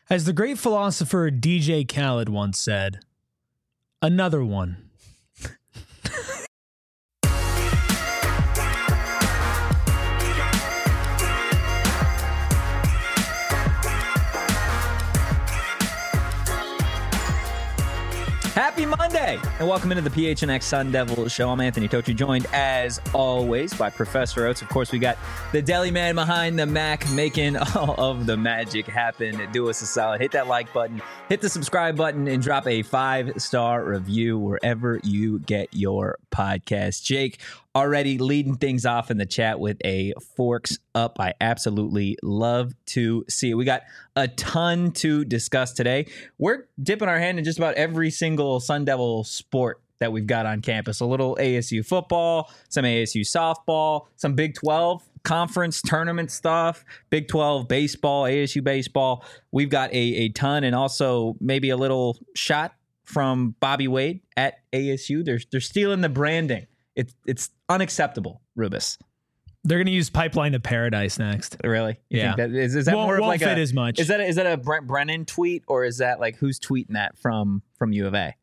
As the great philosopher DJ Khaled once said, another one. Happy Monday, and welcome into the PHNX Sun Devil Show. I'm Anthony Tocci, joined as always by Professor Oates. Of course, we got the deli man behind the Mac making all of the magic happen. Do us a solid. Hit that like button, hit the subscribe button, and drop a 5-star review wherever you get your podcast. Jake already leading things off in the chat with a forks up. I absolutely love to see it. We got a ton to discuss today. We're dipping our hand in just about every single Sun Devil sport that we've got on campus. A little ASU football, some ASU softball, some Big 12 conference tournament stuff, Big 12 baseball, ASU baseball. We've got a ton, and also maybe a little shot from Bobby Wade at ASU. They're stealing the branding. It's unacceptable, Rubus. They're going to use Pipeline to Paradise next. Really? You Yeah. think that, is that more of like fit as much. Is that a Brent Brennan tweet, or is that like who's tweeting that from U of A?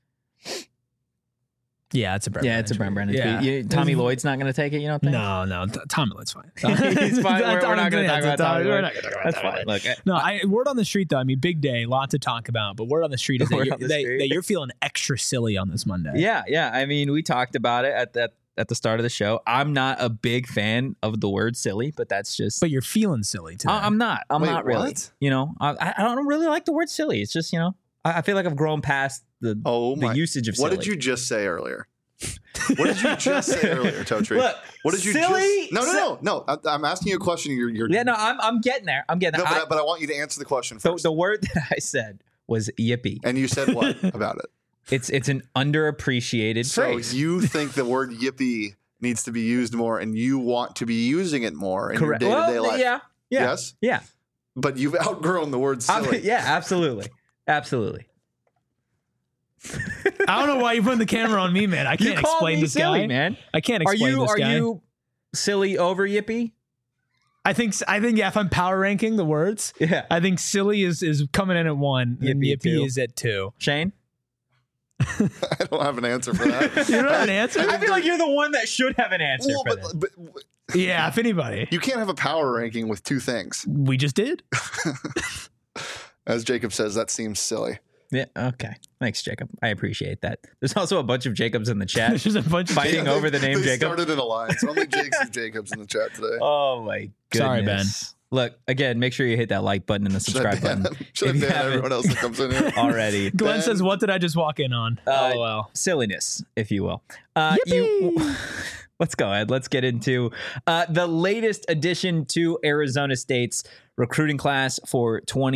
Yeah, it's a Brent. Yeah, it's a Brent Brennan Yeah. tweet. Tommy Lloyd's not going to take it, you don't think? No, Tommy Lloyd's fine. He's fine. We're not going to talk about Tommy We're Lloyd. not going to talk about That's Tommy fine. Lloyd. Look, No, word on the street, though. I mean, big day, lot to talk about. But word on the street is Word that on the street. you're feeling extra silly on this Monday. yeah. I mean, we talked about it at the start of the show. I'm not a big fan of the word silly, but that's just... But you're feeling silly today. I'm not. I'm Wait, not really. what? You know, I don't really like the word silly. It's just, you know, I feel like I've grown past the usage of silly. What did you just say earlier? What did you just say earlier, Totri? Look, what did you silly, just... No. I'm asking you a question. You're Yeah, no, I'm getting there. I'm getting No, there. but I want you to answer the question So first. the word that I said was yippee. And you said what about it? It's an underappreciated So phrase. you think the word yippee needs to be used more, and you want to be using it more in Correct. your day-to-day life. Yeah. Yes? Yeah. But you've outgrown the word silly. Yeah, absolutely. Absolutely. I don't know why you're putting the camera on me, man. I can't You call explain me this silly, guy. man. I can't Are explain this guy. you silly over yippee? I think yeah, if I'm power ranking the words, Yeah. I think silly is coming in at 1 and Yippee, yippee 2. is at 2. Shane? I don't have an answer for that. You don't have an answer? I feel like you're the one that should have an answer Well, for this. but Yeah, if anybody. you can't have a power ranking with two things. We just did. As Jacob says, that seems silly. Yeah, okay. Thanks, Jacob. I appreciate that. There's also a bunch of Jacobs in the chat. There's just a bunch of Fighting over the name they Jacob. started an alliance. Only Jakes and Jacobs in the chat today. Oh my goodness. Sorry, Ben. Look, again, make sure you hit that like button and the subscribe button. Should I if you ban haven't everyone else that comes in here? already. Glenn Ben. says, "What did I just walk in on?" LOL. Silliness, if you will. Yippee! Let's go ahead. Let's get into the latest addition to Arizona State's recruiting class for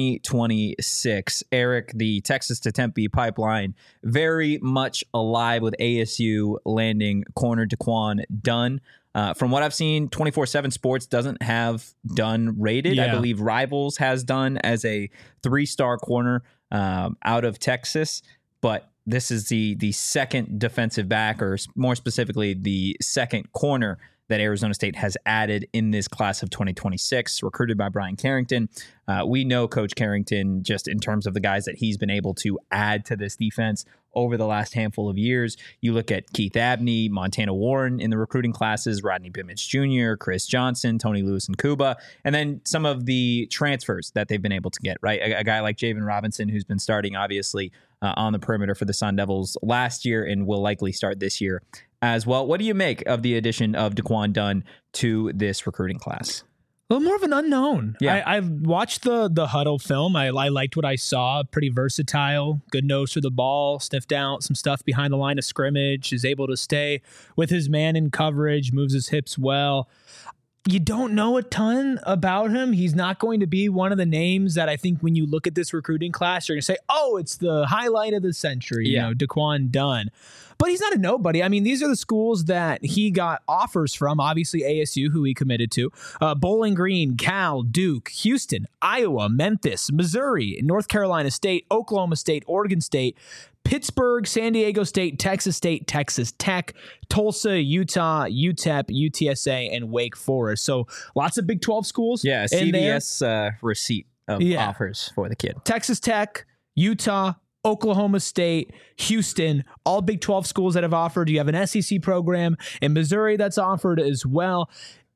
2026. Eric, the Texas to Tempe pipeline, very much alive with ASU landing corner Daquan Dunn. From what I've seen, 24/7 Sports doesn't have Dunn rated. I Yeah. believe Rivals has Dunn as a 3-star corner out of Texas, but this is the second defensive back, or more specifically, the second corner that Arizona State has added in this class of 2026, recruited by Brian Carrington. We know Coach Carrington, just in terms of the guys that he's been able to add to this defense over the last handful of years. You look at Keith Abney, Montana Warren in the recruiting classes, Rodney Bimmich Jr., Chris Johnson, Tony Lewis and Cuba, and then some of the transfers that they've been able to get, right? A guy like Javen Robinson, who's been starting, obviously, on the perimeter for the Sun Devils last year and will likely start this year as well. What do you make of the addition of Daquan Dunn to this recruiting class? Well, more of an unknown. Yeah. I watched the Huddle film. I liked what I saw. Pretty versatile. Good nose for the ball. Sniffed out some stuff behind the line of scrimmage. Is able to stay with his man in coverage. Moves his hips well. You don't know a ton about him. He's not going to be one of the names that I think when you look at this recruiting class, you're going to say, oh, it's the highlight of the century, Yeah. Daquan Dunn. But he's not a nobody. I mean, these are the schools that he got offers from. Obviously, ASU, who he committed to. Bowling Green, Cal, Duke, Houston, Iowa, Memphis, Missouri, North Carolina State, Oklahoma State, Oregon State, Pittsburgh, San Diego State, Texas Tech, Tulsa, Utah, UTEP, UTSA, and Wake Forest. So lots of Big 12 schools. Yeah, in there. CVS receipt of offers for the kid. Texas Tech, Utah, Oklahoma State, Houston, all Big 12 schools that have offered. You have an SEC program in Missouri that's offered as well.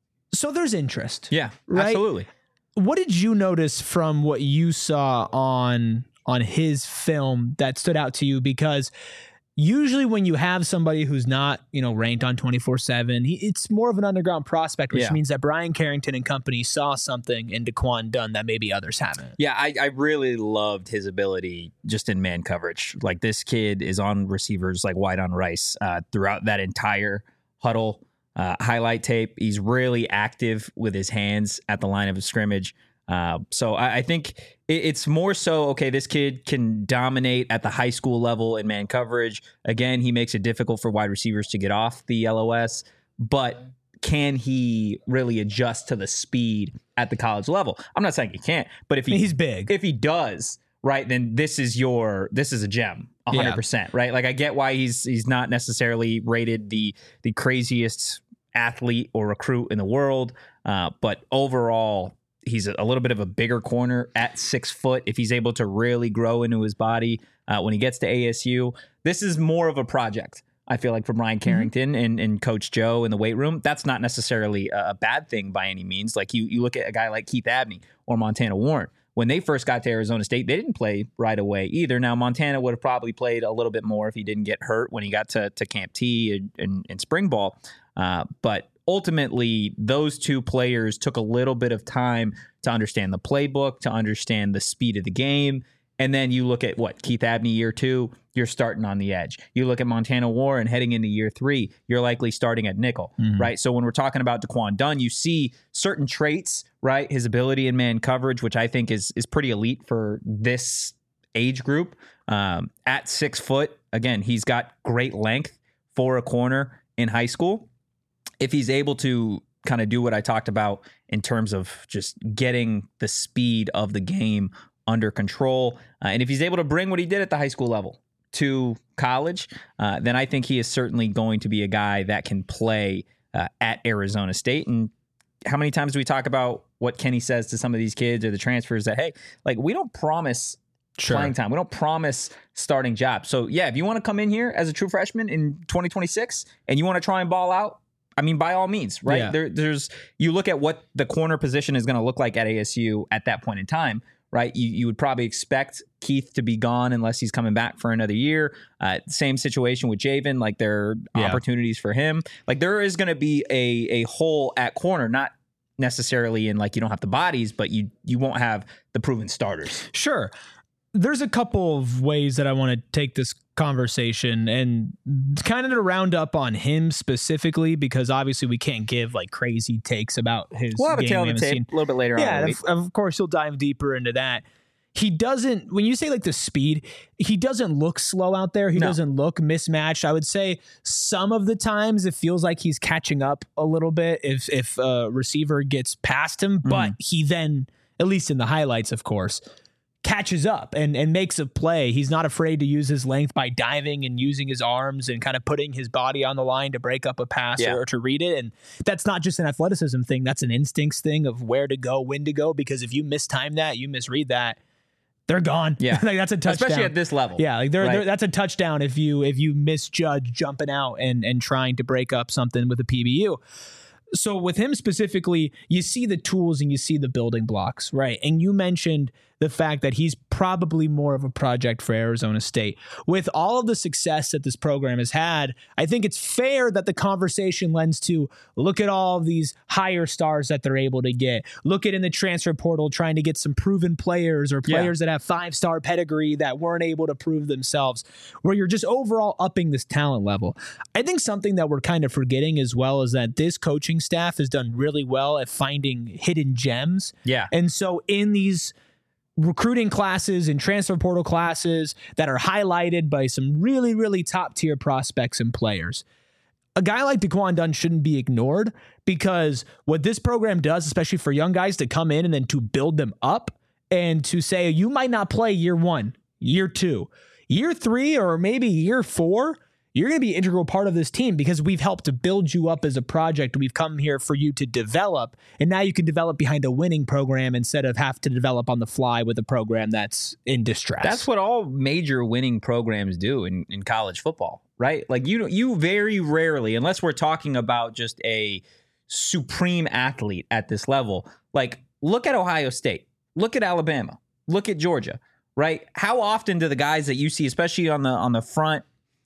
So there's interest. Yeah, right? Absolutely. What did you notice from what you saw on his film that stood out to you? Because usually when you have somebody who's not, ranked on 24/7, it's more of an underground prospect, which means that Brian Carrington and company saw something in Daquan Dunn that maybe others haven't. Yeah, I really loved his ability just in man coverage. Like, this kid is on receivers like white on rice throughout that entire huddle. Highlight tape. He's really active with his hands at the line of scrimmage. So I think it's more so, okay, this kid can dominate at the high school level in man coverage. Again, he makes it difficult for wide receivers to get off the LOS, but can he really adjust to the speed at the college level? I'm not saying he can't, but he's big. If he does, right, then this is a gem. 100%, right? Like, I get why he's not necessarily rated the craziest athlete or recruit in the world, but overall, he's a little bit of a bigger corner at 6 foot. If he's able to really grow into his body when he gets to ASU, this is more of a project, I feel like, for Brian Carrington and Coach Joe in the weight room. That's not necessarily a bad thing by any means. Like, you look at a guy like Keith Abney or Montana Warren. When they first got to Arizona State, they didn't play right away either. Now, Montana would have probably played a little bit more if he didn't get hurt when he got to Camp T and spring ball. But ultimately, those two players took a little bit of time to understand the playbook, to understand the speed of the game. And then you look at Keith Abney year 2, you're starting on the edge. You look at Montana Warren heading into year 3, you're likely starting at nickel, right? So when we're talking about Daquan Dunn, you see certain traits, right? His ability in man coverage, which I think is pretty elite for this age group. At 6 foot, again, he's got great length for a corner in high school. If he's able to kind of do what I talked about in terms of just getting the speed of the game under control, and if he's able to bring what he did at the high school level to college, then I think he is certainly going to be a guy that can play at Arizona State. And how many times do we talk about what Kenny says to some of these kids or the transfers that, hey, like, we don't promise playing time. We don't promise starting jobs. So, yeah, if you want to come in here as a true freshman in 2026 and you want to try and ball out, I mean, by all means, right? Yeah. You look at what the corner position is going to look like at ASU at that point in time, right? You would probably expect Keith to be gone unless he's coming back for another year. Same situation with Javen. Like, there are opportunities for him. Like, there is going to be a hole at corner, not necessarily in, like, you don't have the bodies, but you won't have the proven starters. Sure. There's a couple of ways that I want to take this conversation and kind of to round up on him specifically, because obviously we can't give like crazy takes about his We'll have game. a tail of the tape a little bit later on. Yeah, of course he'll dive deeper into that. He doesn't, when you say like the speed, he doesn't look slow out there. He doesn't look mismatched. I would say some of the times it feels like he's catching up a little bit if a receiver gets past him, but he then, at least in the highlights, of course, catches up and makes a play. He's not afraid to use his length by diving and using his arms and kind of putting his body on the line to break up a pass or to read it. And that's not just an athleticism thing. That's an instincts thing of where to go, when to go, because if you mistime that, you misread that, they're gone. Yeah. Like, that's a touchdown. Especially at this level. Yeah. Like that's a touchdown if you misjudge jumping out and trying to break up something with a PBU. So with him specifically, you see the tools and you see the building blocks, right? And you mentioned the fact that he's probably more of a project for Arizona State. With all of the success that this program has had, I think it's fair that the conversation lends to look at all of these higher stars that they're able to get. Look at in the transfer portal trying to get some proven players or players that have 5-star pedigree that weren't able to prove themselves, where you're just overall upping this talent level. I think something that we're kind of forgetting as well is that this coaching staff has done really well at finding hidden gems. Yeah. And so in these recruiting classes and transfer portal classes that are highlighted by some really, really top tier prospects and players, a guy like Daquan Dunn shouldn't be ignored, because what this program does, especially for young guys to come in and then to build them up and to say, you might not play year 1, year 2, year 3, or maybe year 4, you're going to be an integral part of this team because we've helped to build you up as a project. We've come here for you to develop, and now you can develop behind a winning program instead of have to develop on the fly with a program that's in distress. That's what all major winning programs do in college football, right? Like you very rarely, unless we're talking about just a supreme athlete at this level, like look at Ohio State, look at Alabama, look at Georgia, right? How often do the guys that you see, especially on the front,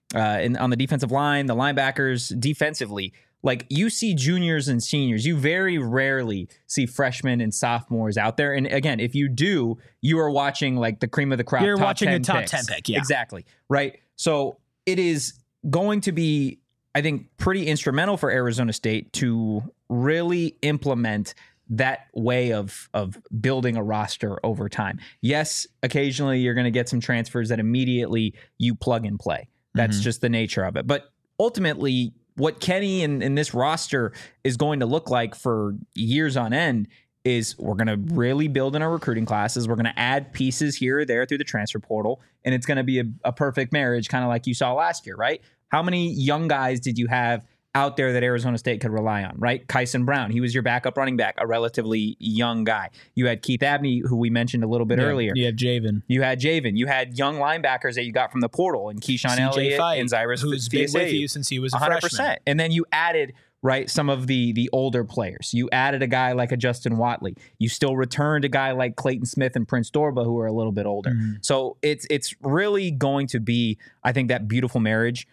on the defensive line, the linebackers defensively, like you see juniors and seniors, you very rarely see freshmen and sophomores out there. And again, if you do, you are watching like the cream of the crop. You're watching a top picks. 10 pick. Yeah, exactly. Right. So it is going to be, I think, pretty instrumental for Arizona State to really implement that way of building a roster over time. Yes, occasionally you're going to get some transfers that immediately you plug and play. That's just the nature of it. But ultimately, what Kenny and this roster is going to look like for years on end is we're going to really build in our recruiting classes. We're going to add pieces here or there through the transfer portal, and it's going to be a perfect marriage, kind of like you saw last year, right? How many young guys did you have out there that Arizona State could rely on, right? Kyson Brown, he was your backup running back, a relatively young guy. You had Keith Abney, who we mentioned a little bit earlier. You have Javen. You had young linebackers that you got from the portal, and Keyshawn Elliott and Cyrus, who's been with you since he was a 100%. Freshman. And then you added, right, some of the older players. You added a guy like a Justin Watley. You still returned a guy like Clayton Smith and Prince Dorba, who are a little bit older. So it's really going to be, I think, that beautiful marriage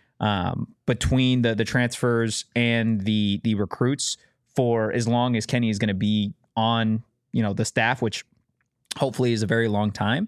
between the transfers and the recruits for as long as Kenny is going to be on, the staff, which hopefully is a very long time.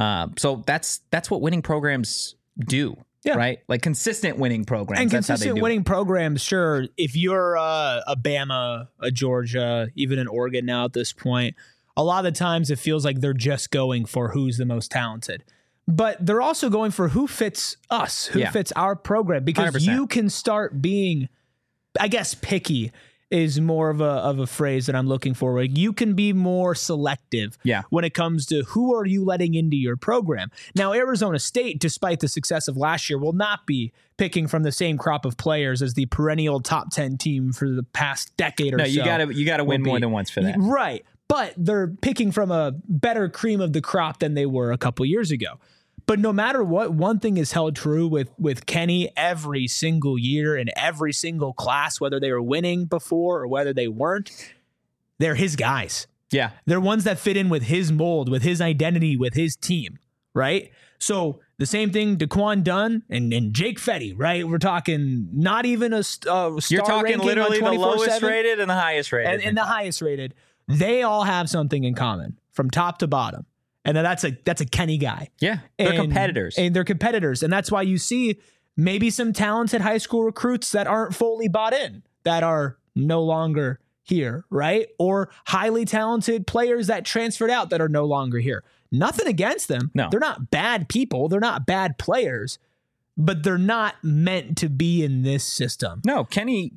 So that's what winning programs do. Yeah. Right. Like consistent winning programs. And consistent winning programs. Sure. If you're a Bama, a Georgia, even an Oregon now at this point, a lot of the times it feels like they're just going for who's the most talented. But they're also going for who fits us, who fits our program, because 100%. You can start being, I guess, picky is more of a phrase that I'm looking for. Like you can be more selective when it comes to who are you letting into your program. Now, Arizona State, despite the success of last year, will not be picking from the same crop of players as the perennial top 10 team for the past decade or so. No, you gotta win more than once for that. Right. But they're picking from a better cream of the crop than they were a couple years ago. But no matter what, one thing is held true with Kenny every single year in every single class, whether they were winning before or whether they weren't, they're his guys. Yeah. They're ones that fit in with his mold, with his identity, with his team, right? So the same thing, Daquan Dunn and Jake Fetty, right? We're talking not even a star You're talking ranking literally on the lowest rated and the highest rated. And the highest rated. They all have something in common from top to bottom. And then that's a Kenny guy. Yeah, they're competitors. And they're competitors. And that's why you see maybe some talented high school recruits that aren't fully bought in, that are no longer here, right? Or highly talented players that transferred out that are no longer here. Nothing against them. No. They're not bad people. They're not bad players. But they're not meant to be in this system. No, Kenny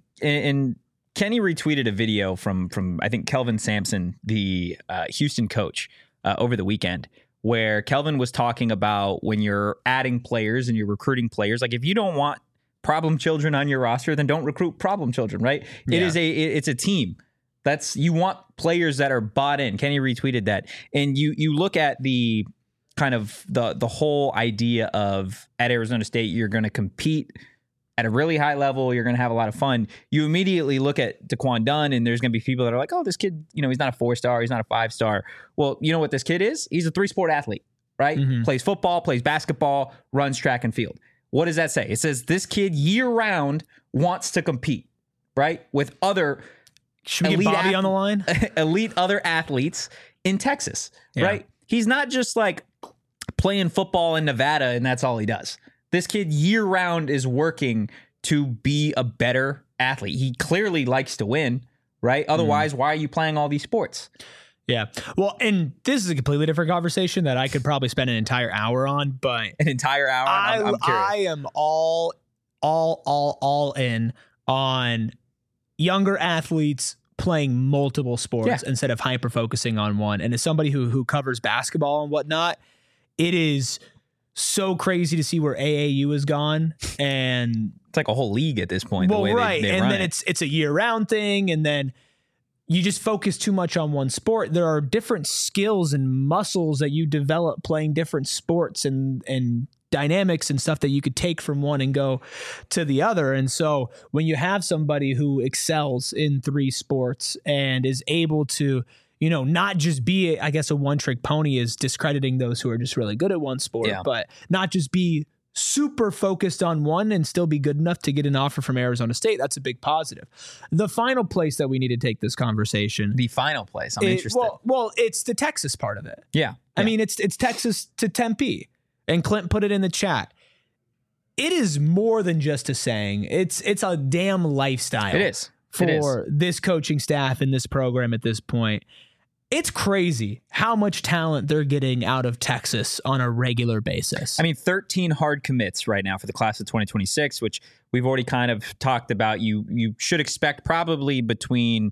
retweeted a video from I think Kelvin Sampson, the Houston coach, over the weekend, where Kelvin was talking about when you're adding players and you're recruiting players, like if you don't want problem children on your roster, then don't recruit problem children, right? Yeah. It's a team. You want players that are bought in. Kenny retweeted that. And you look at the kind of the whole idea of at Arizona State, you're going to compete at a really high level, you're going to have a lot of fun. You immediately look at Daquan Dunn, and there's going to be people that are like, oh, this kid, he's not a 4-star, he's not a 5-star. Well, you know what this kid is? He's a 3-sport athlete, right? Mm-hmm. Plays football, plays basketball, runs track and field. What does that say? It says this kid year-round wants to compete, right? With other Should we get Bobby on the line? Elite other athletes in Texas, right? He's not just like playing football in Nevada, and that's all he does. This kid year-round is working to be a better athlete. He clearly likes to win, right? Otherwise, why are you playing all these sports? Yeah. Well, and this is a completely different conversation that I could probably spend an entire hour on, but... An entire hour? I'm curious. I am all in on younger athletes playing multiple sports instead of hyper-focusing on one. And as somebody who covers basketball and whatnot, it is so crazy to see where AAU has gone, and It's like a whole league at this point. well, the way right, they and run then it. it's a year-round thing, and then you just focus too much on one sport. There are different skills and muscles that you develop playing different sports and dynamics and stuff that you could take from one and go to the other. And so when you have somebody who excels in 3 sports and is able to, not just be, I guess, a one-trick pony is discrediting those who are just really good at one sport, but not just be super focused on one and still be good enough to get an offer from Arizona State. That's a big positive. The final place that we need to take this conversation. The final place. I'm interested. Well, it's the Texas part of it. Yeah. I mean, it's Texas to Tempe. And Clint put it in the chat. It is more than just a saying. It's a damn lifestyle. It is. For this coaching staff and this program at this point. It's crazy how much talent they're getting out of Texas on a regular basis. I mean, 13 hard commits right now for the class of 2026, which we've already kind of talked about. You should expect probably between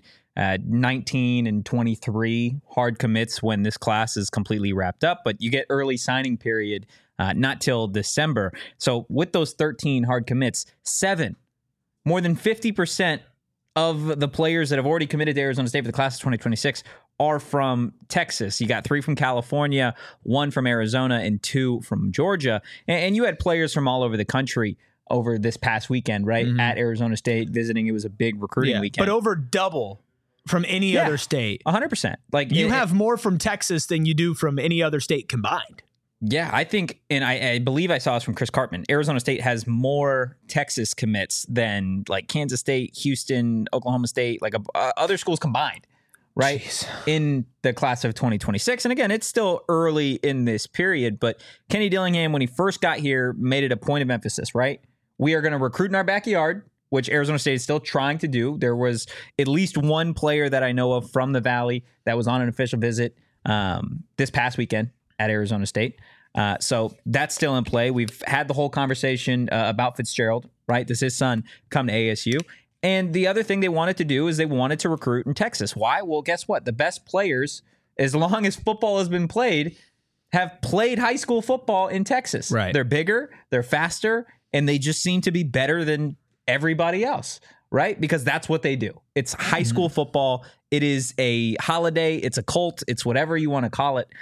19 and 23 hard commits when this class is completely wrapped up, but you get early signing period not till December. So with those 13 hard commits, 7, more than 50% of the players that have already committed to Arizona State for the class of 2026 are from Texas. You got 3 from California, 1 from Arizona, and 2 from Georgia. And you had players from all over the country over this past weekend, right? Mm-hmm. At Arizona State visiting. It was a big recruiting weekend. But over double from any other state. 100%. Like you have more from Texas than you do from any other state combined. Yeah, I think, and I believe I saw this from Chris Cartman, Arizona State has more Texas commits than like Kansas State, Houston, Oklahoma State, like other schools combined, right? Jeez. In the class of 2026. And again, it's still early in this period, but Kenny Dillingham, when he first got here, made it a point of emphasis, right? We are going to recruit in our backyard, which Arizona State is still trying to do. There was at least one player that I know of from the Valley that was on an official visit this past weekend at Arizona State. So that's still in play. We've had the whole conversation about Fitzgerald, right? Does his son come to ASU? And the other thing they wanted to do is they wanted to recruit in Texas. Why? Well, guess what? The best players, as long as football has been played, have played high school football in Texas. Right. They're bigger, they're faster, and they just seem to be better than everybody else, right? Because that's what they do. It's high school football. It is a holiday. It's a cult. It's whatever you want to call it.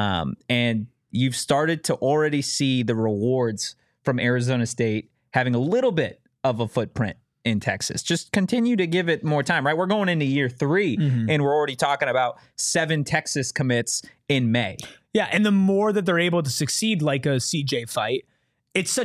And you've started to already see the rewards from Arizona State having a little bit of a footprint in Texas. Just continue to give it more time, right? We're going into year 3 and we're already talking about 7 Texas commits in May. Yeah, and the more that they're able to succeed like a CJ fight, it's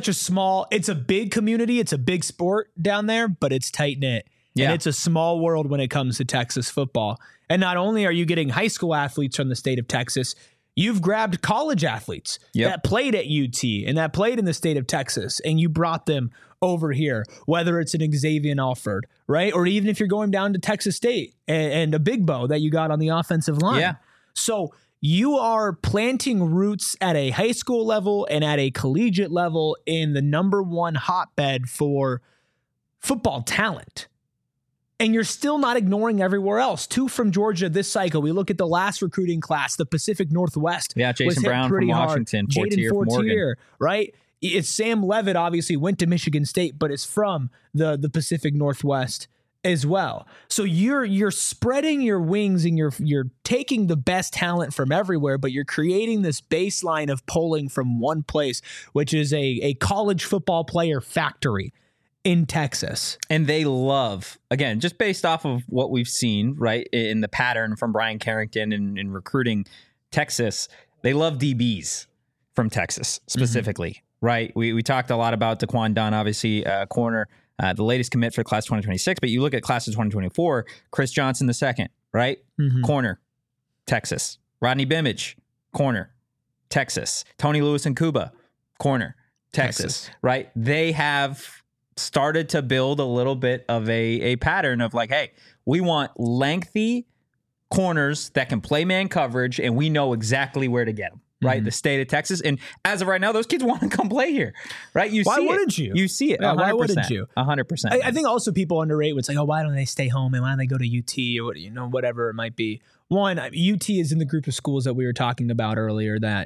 a big community, it's a big sport down there, but it's tight-knit. Yeah. And it's a small world when it comes to Texas football. And not only are you getting high school athletes from the state of Texas, you've grabbed college athletes that played at UT and that played in the state of Texas, and you brought them over here, whether it's an Xavier Alford, right? Or even if you're going down to Texas State and a Big Bow that you got on the offensive line. Yeah. So you are planting roots at a high school level and at a collegiate level in the number 1 hotbed for football talent. And you're still not ignoring everywhere else. 2 from Georgia this cycle. We look at the last recruiting class, the Pacific Northwest. Yeah, Jason Brown from Washington, Jaden Fortier, right? It's Sam Levitt, obviously went to Michigan State, but is from the Pacific Northwest as well. So you're spreading your wings and you're taking the best talent from everywhere, but you're creating this baseline of polling from one place, which is a college football player factory in Texas. And they love, again, just based off of what we've seen, right, in the pattern from Brian Carrington in recruiting Texas, they love DBs from Texas specifically, right? We talked a lot about Daquan Dunn, obviously, corner, the latest commit for class 2026, but you look at class of 2024, Chris Johnson the second, right? Corner, Texas. Rodney Bimage, corner, Texas. Tony Lewis and Cuba, corner, Texas, right? They have started to build a little bit of a pattern of like, hey, we want lengthy corners that can play man coverage, and we know exactly where to get them, right? The state of Texas. And as of right now, those kids want to come play here, right? Why wouldn't you? You see it. Yeah, why wouldn't you? 100%. I think also people underrate what's like, oh, why don't they stay home and why don't they go to UT or whatever it might be. One, UT is in the group of schools that we were talking about earlier that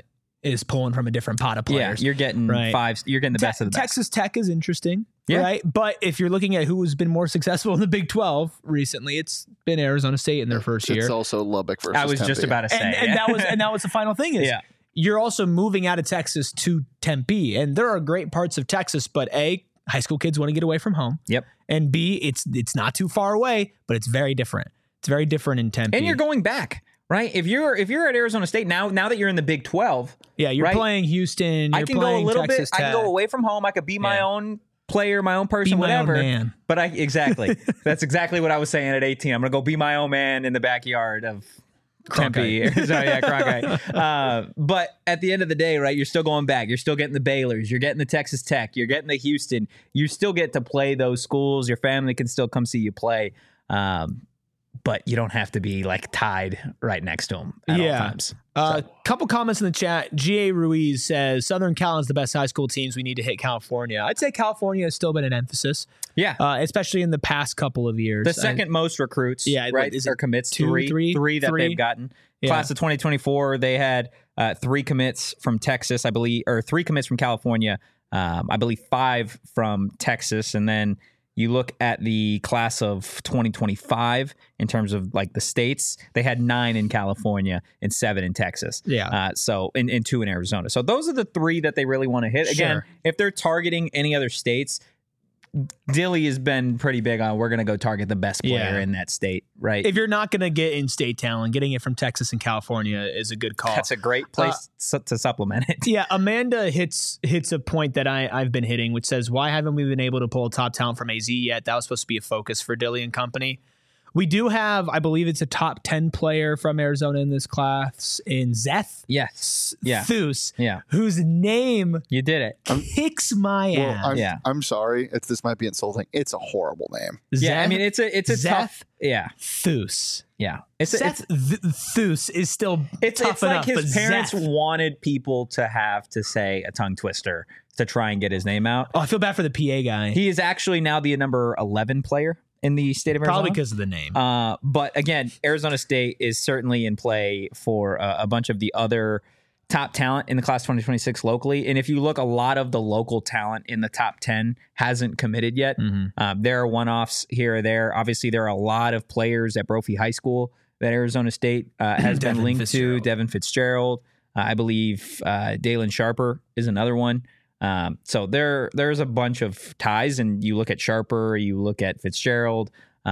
is pulling from a different pot of players. Yeah, you're getting You're getting the best of the best. Texas Tech is interesting, Yeah. right? But if you're looking at who's been more successful in the Big 12 recently, it's been Arizona State in their first year. It's also Lubbock versus I was just Tempe. about to say. and that was the final thing is you're also moving out of Texas to Tempe, and there are great parts of Texas, but A, high school kids want to get away from home. Yep. And B, it's not too far away, but it's very different. It's very different in Tempe. And you're going back, right? If you're at Arizona State now that you're in the Big 12, you're right? playing Houston. You're I can go a little Texas bit. Tech. I can go away from home. I could be my own player, my own person, Be my own whatever. man. But exactly. That's exactly what I was saying at 18. I'm gonna go be my own man in the backyard of Tempe. Cronkite. But at the end of the day, right, you're still going back. You're still getting the Baylors. You're getting the Texas Tech. You're getting the Houston. You still get to play those schools. Your family can still come see you play. But you don't have to be like tied right next to them at all times. Couple comments in the chat. G.A. Ruiz says, Southern Cal is the best high school teams. We need to hit California. I'd say California has still been an emphasis. Yeah. Especially in the past couple of years. The second most recruits, right? Is or commits, three that they've gotten. Yeah. Class of 2024, they had 3 commits from Texas, I believe, or 3 commits from California. I believe 5 from Texas. And then you look at the class of 2025 in terms of like the states, they had 9 in California and 7 in Texas. Yeah. So and 2 in Arizona. So those are the 3 that they really want to hit. Again, Sure. if they're targeting any other states, Dilly has been pretty big on we're going to go target the best player in that state, right? If you're not going to get in-state talent, getting it from Texas and California is a good call. That's a great place to supplement it. Yeah, Amanda hits a point that I've been hitting, which says, why haven't we been able to pull top talent from AZ yet? That was supposed to be a focus for Dilly and company. We do have, I believe it's a top 10 player from Arizona in this class in Zeth. Yes. Yeah. Thus, Yeah. whose name You did it. kicks my ass. I'm sorry. This might be insulting. It's a horrible name. Yeah, I mean it's a Zeth tough. Yeah. Thus. Yeah. Seth Thus is still It's tough like enough, his but parents Zeth. wanted people to have to say a tongue twister to try and get his name out. Oh, I feel bad for the PA guy. He is actually now the number 11 player in the state of Arizona. Probably because of the name. But again, Arizona State is certainly in play for a bunch of the other top talent in the class 2026 locally. And if you look, a lot of the local talent in the top 10 hasn't committed yet. There are one-offs here or there. Obviously, there are a lot of players at Brophy High School that Arizona State has been linked to. Devin Fitzgerald. I believe Dalen Sharper is another one. So there's a bunch of ties, and you look at Sharper, you look at Fitzgerald.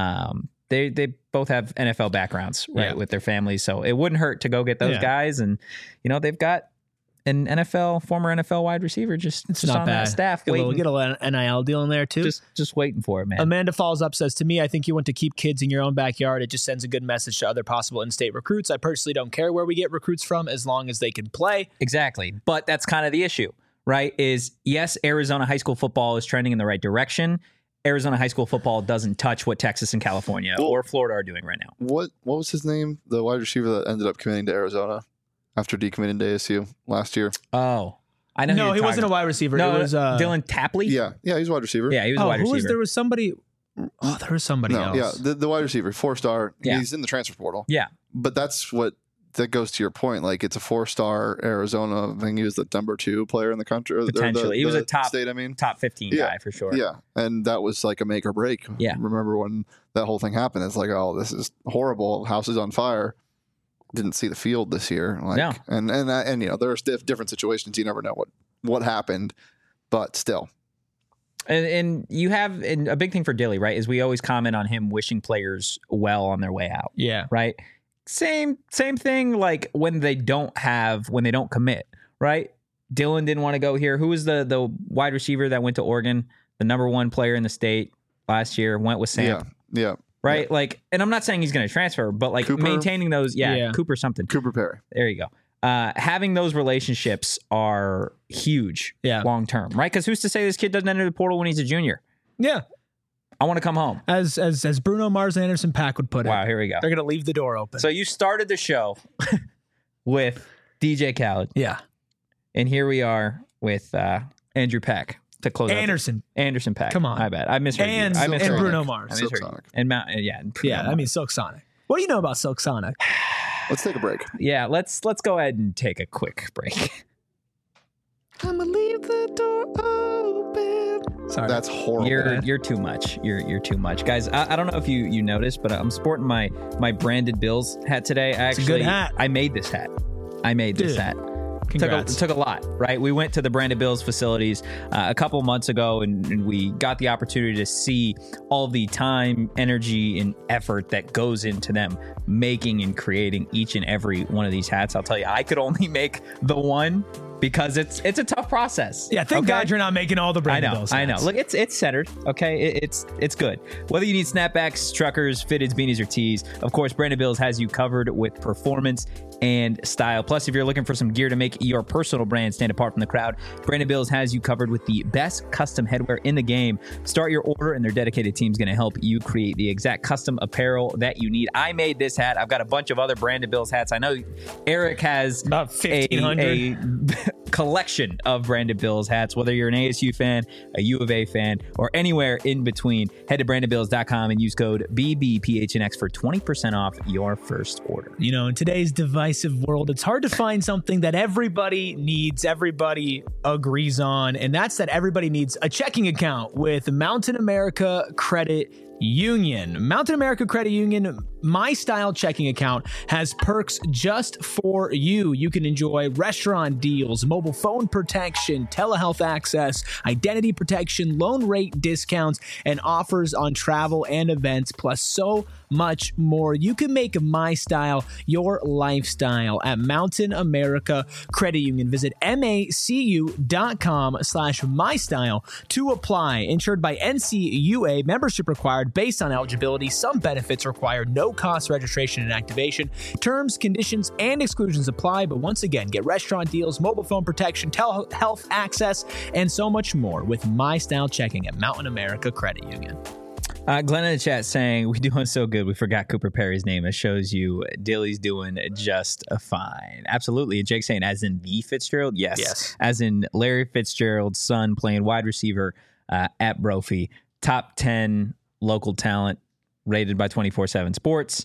They both have NFL backgrounds, right, with their families. So it wouldn't hurt to go get those guys. And, they've got an former NFL wide receiver just not on bad. that staff Get waiting. a little NIL deal in there too. Just waiting for it, man. Amanda follows up, says, to me, I think you want to keep kids in your own backyard. It just sends a good message to other possible in-state recruits. I personally don't care where we get recruits from as long as they can play. Exactly. But that's kind of the issue, right? Is yes, Arizona high school football is trending in the right direction. Arizona high school football doesn't touch what Texas and California or Florida are doing right now. What was his name? The wide receiver that ended up committing to Arizona after decommitting to ASU last year. Oh, I know. No, he wasn't a wide receiver. No, it was Dylan Tapley. Yeah, he's a wide receiver. Yeah, he was a wide receiver. There was somebody. Oh, there was somebody else. Yeah, the wide receiver, 4-star. Yeah. He's in the transfer portal. Yeah, but that goes to your point. Like, it's a 4-star Arizona. I think he was the number 2 player in the country. Potentially, he was a top 15 guy for sure. Yeah, and that was like a make or break. Yeah, remember when that whole thing happened? It's like, oh, this is horrible. House is on fire. Didn't see the field this year. Like, and there's different situations. You never know what happened, but still. And you have a big thing for Dilly, right? Is we always comment on him wishing players well on their way out. Yeah, right. Same thing. Like when they don't commit, right? Dylan didn't want to go here. Who was the wide receiver that went to Oregon, the number 1 player in the state last year? Went with Sam. Yeah. Right. Yeah. Like, and I'm not saying he's going to transfer, but like Cooper? maintaining those. Yeah, Cooper something. Cooper Perry. There you go. Having those relationships are huge. Long term, right? Because who's to say this kid doesn't enter the portal when he's a junior? Yeah. I want to come home. As Bruno Mars and Anderson .Paak would put it. Wow, here we go. They're going to leave the door open. So you started the show with DJ Khaled. Yeah. And here we are with Andrew Peck to close Anderson Peck. Come on. I bet. I misheard you. And Bruno Mars. I misheard you. And Bruno Mars. Silk Sonic. What do you know about Silk Sonic? Let's take a break. Yeah, let's go ahead and take a quick break. I'm gonna leave the door open. Sorry, that's horrible. You're too much. You're too much, guys. I don't know if you noticed, but I'm sporting my Branded Bills hat today. It's a good hat. I made this hat. It took a lot, right? We went to the Branded Bills facilities a couple months ago, and we got the opportunity to see all the time, energy, and effort that goes into them making and creating each and every one of these hats. I'll tell you, I could only make the one because it's a tough process. Yeah, thank God you're not making all the Branded Bills hats. I know. Look, it's centered, okay? It's good. Whether you need snapbacks, truckers, fitteds, beanies, or tees, of course, Branded Bills has you covered with performance and style. Plus, if you're looking for some gear to make your personal brand stand apart from the crowd, Branded Bills has you covered with the best custom headwear in the game. Start your order, and their dedicated team is going to help you create the exact custom apparel that you need. I made this hat. I've got a bunch of other Branded Bills hats. I know Eric has about 1,500 collection of Branded Bills hats. Whether you're an ASU fan, a U of A fan, or anywhere in between, head to brandedbills.com and use code BBPHNX for 20% off your first order. You know, in today's divisive world, it's hard to find something that everybody needs, everybody agrees on, and that's that everybody needs a checking account with Mountain America Credit Union. Mountain America Credit Union, My Style checking account, has perks just for you. You can enjoy restaurant deals, mobile phone protection, telehealth access, identity protection, loan rate discounts, and offers on travel and events, plus so much more. You can make My Style your lifestyle at Mountain America Credit Union. Visit macu.com/mystyle to apply. Insured by NCUA, membership required based on eligibility. Some benefits require no cost registration and activation. Terms, conditions, and exclusions apply. But once again, get restaurant deals, mobile phone protection, telehealth access, and so much more with My Style checking at Mountain America Credit Union. Glenn in the chat saying, we're doing so good, we forgot Cooper Perry's name. It shows you Dilly's doing just fine. Absolutely. And Jake saying, as in the Fitzgerald? Yes. As in Larry Fitzgerald's son playing wide receiver at Brophy. Top 10 local talent rated by 24/7 Sports.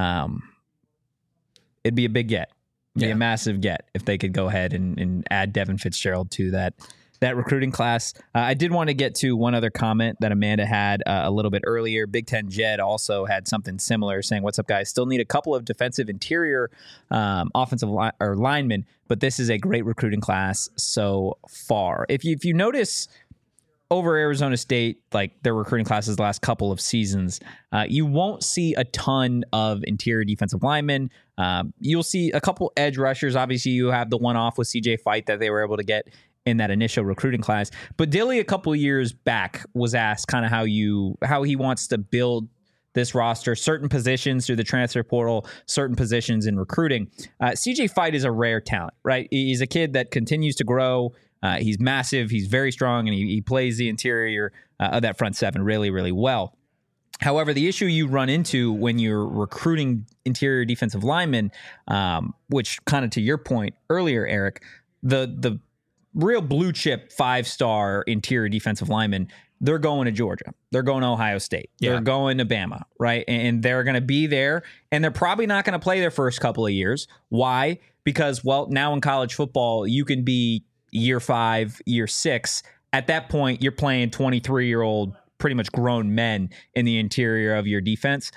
It'd be a big get. It'd be a massive get if they could go ahead and add Devin Fitzgerald to that recruiting class. I did want to get to one other comment that Amanda had a little bit earlier. Big Ten Jed also had something similar, saying, what's up, guys? Still need a couple of defensive interior offensive linemen, but this is a great recruiting class so far. If you notice over Arizona State, like their recruiting classes the last couple of seasons, you won't see a ton of interior defensive linemen. You'll see a couple edge rushers. Obviously, you have the one-off with CJ Fight that they were able to get in that initial recruiting class. But Dilly a couple of years back was asked kind of how he wants to build this roster, certain positions through the transfer portal, certain positions in recruiting. CJ Fight is a rare talent, right? He's a kid that continues to grow. He's massive. He's very strong, and he plays the interior of that front seven really, really well. However, the issue you run into when you're recruiting interior defensive linemen, which kind of to your point earlier, Eric, the real blue chip 5-star interior defensive linemen, they're going to Georgia. They're going to Ohio State. Yeah. They're going to Bama, right? And they're going to be there, and they're probably not going to play their first couple of years. Why? Because, well, now in college football, you can be year 5, year 6. At that point, you're playing 23-year-old, pretty much grown men in the interior of your defense,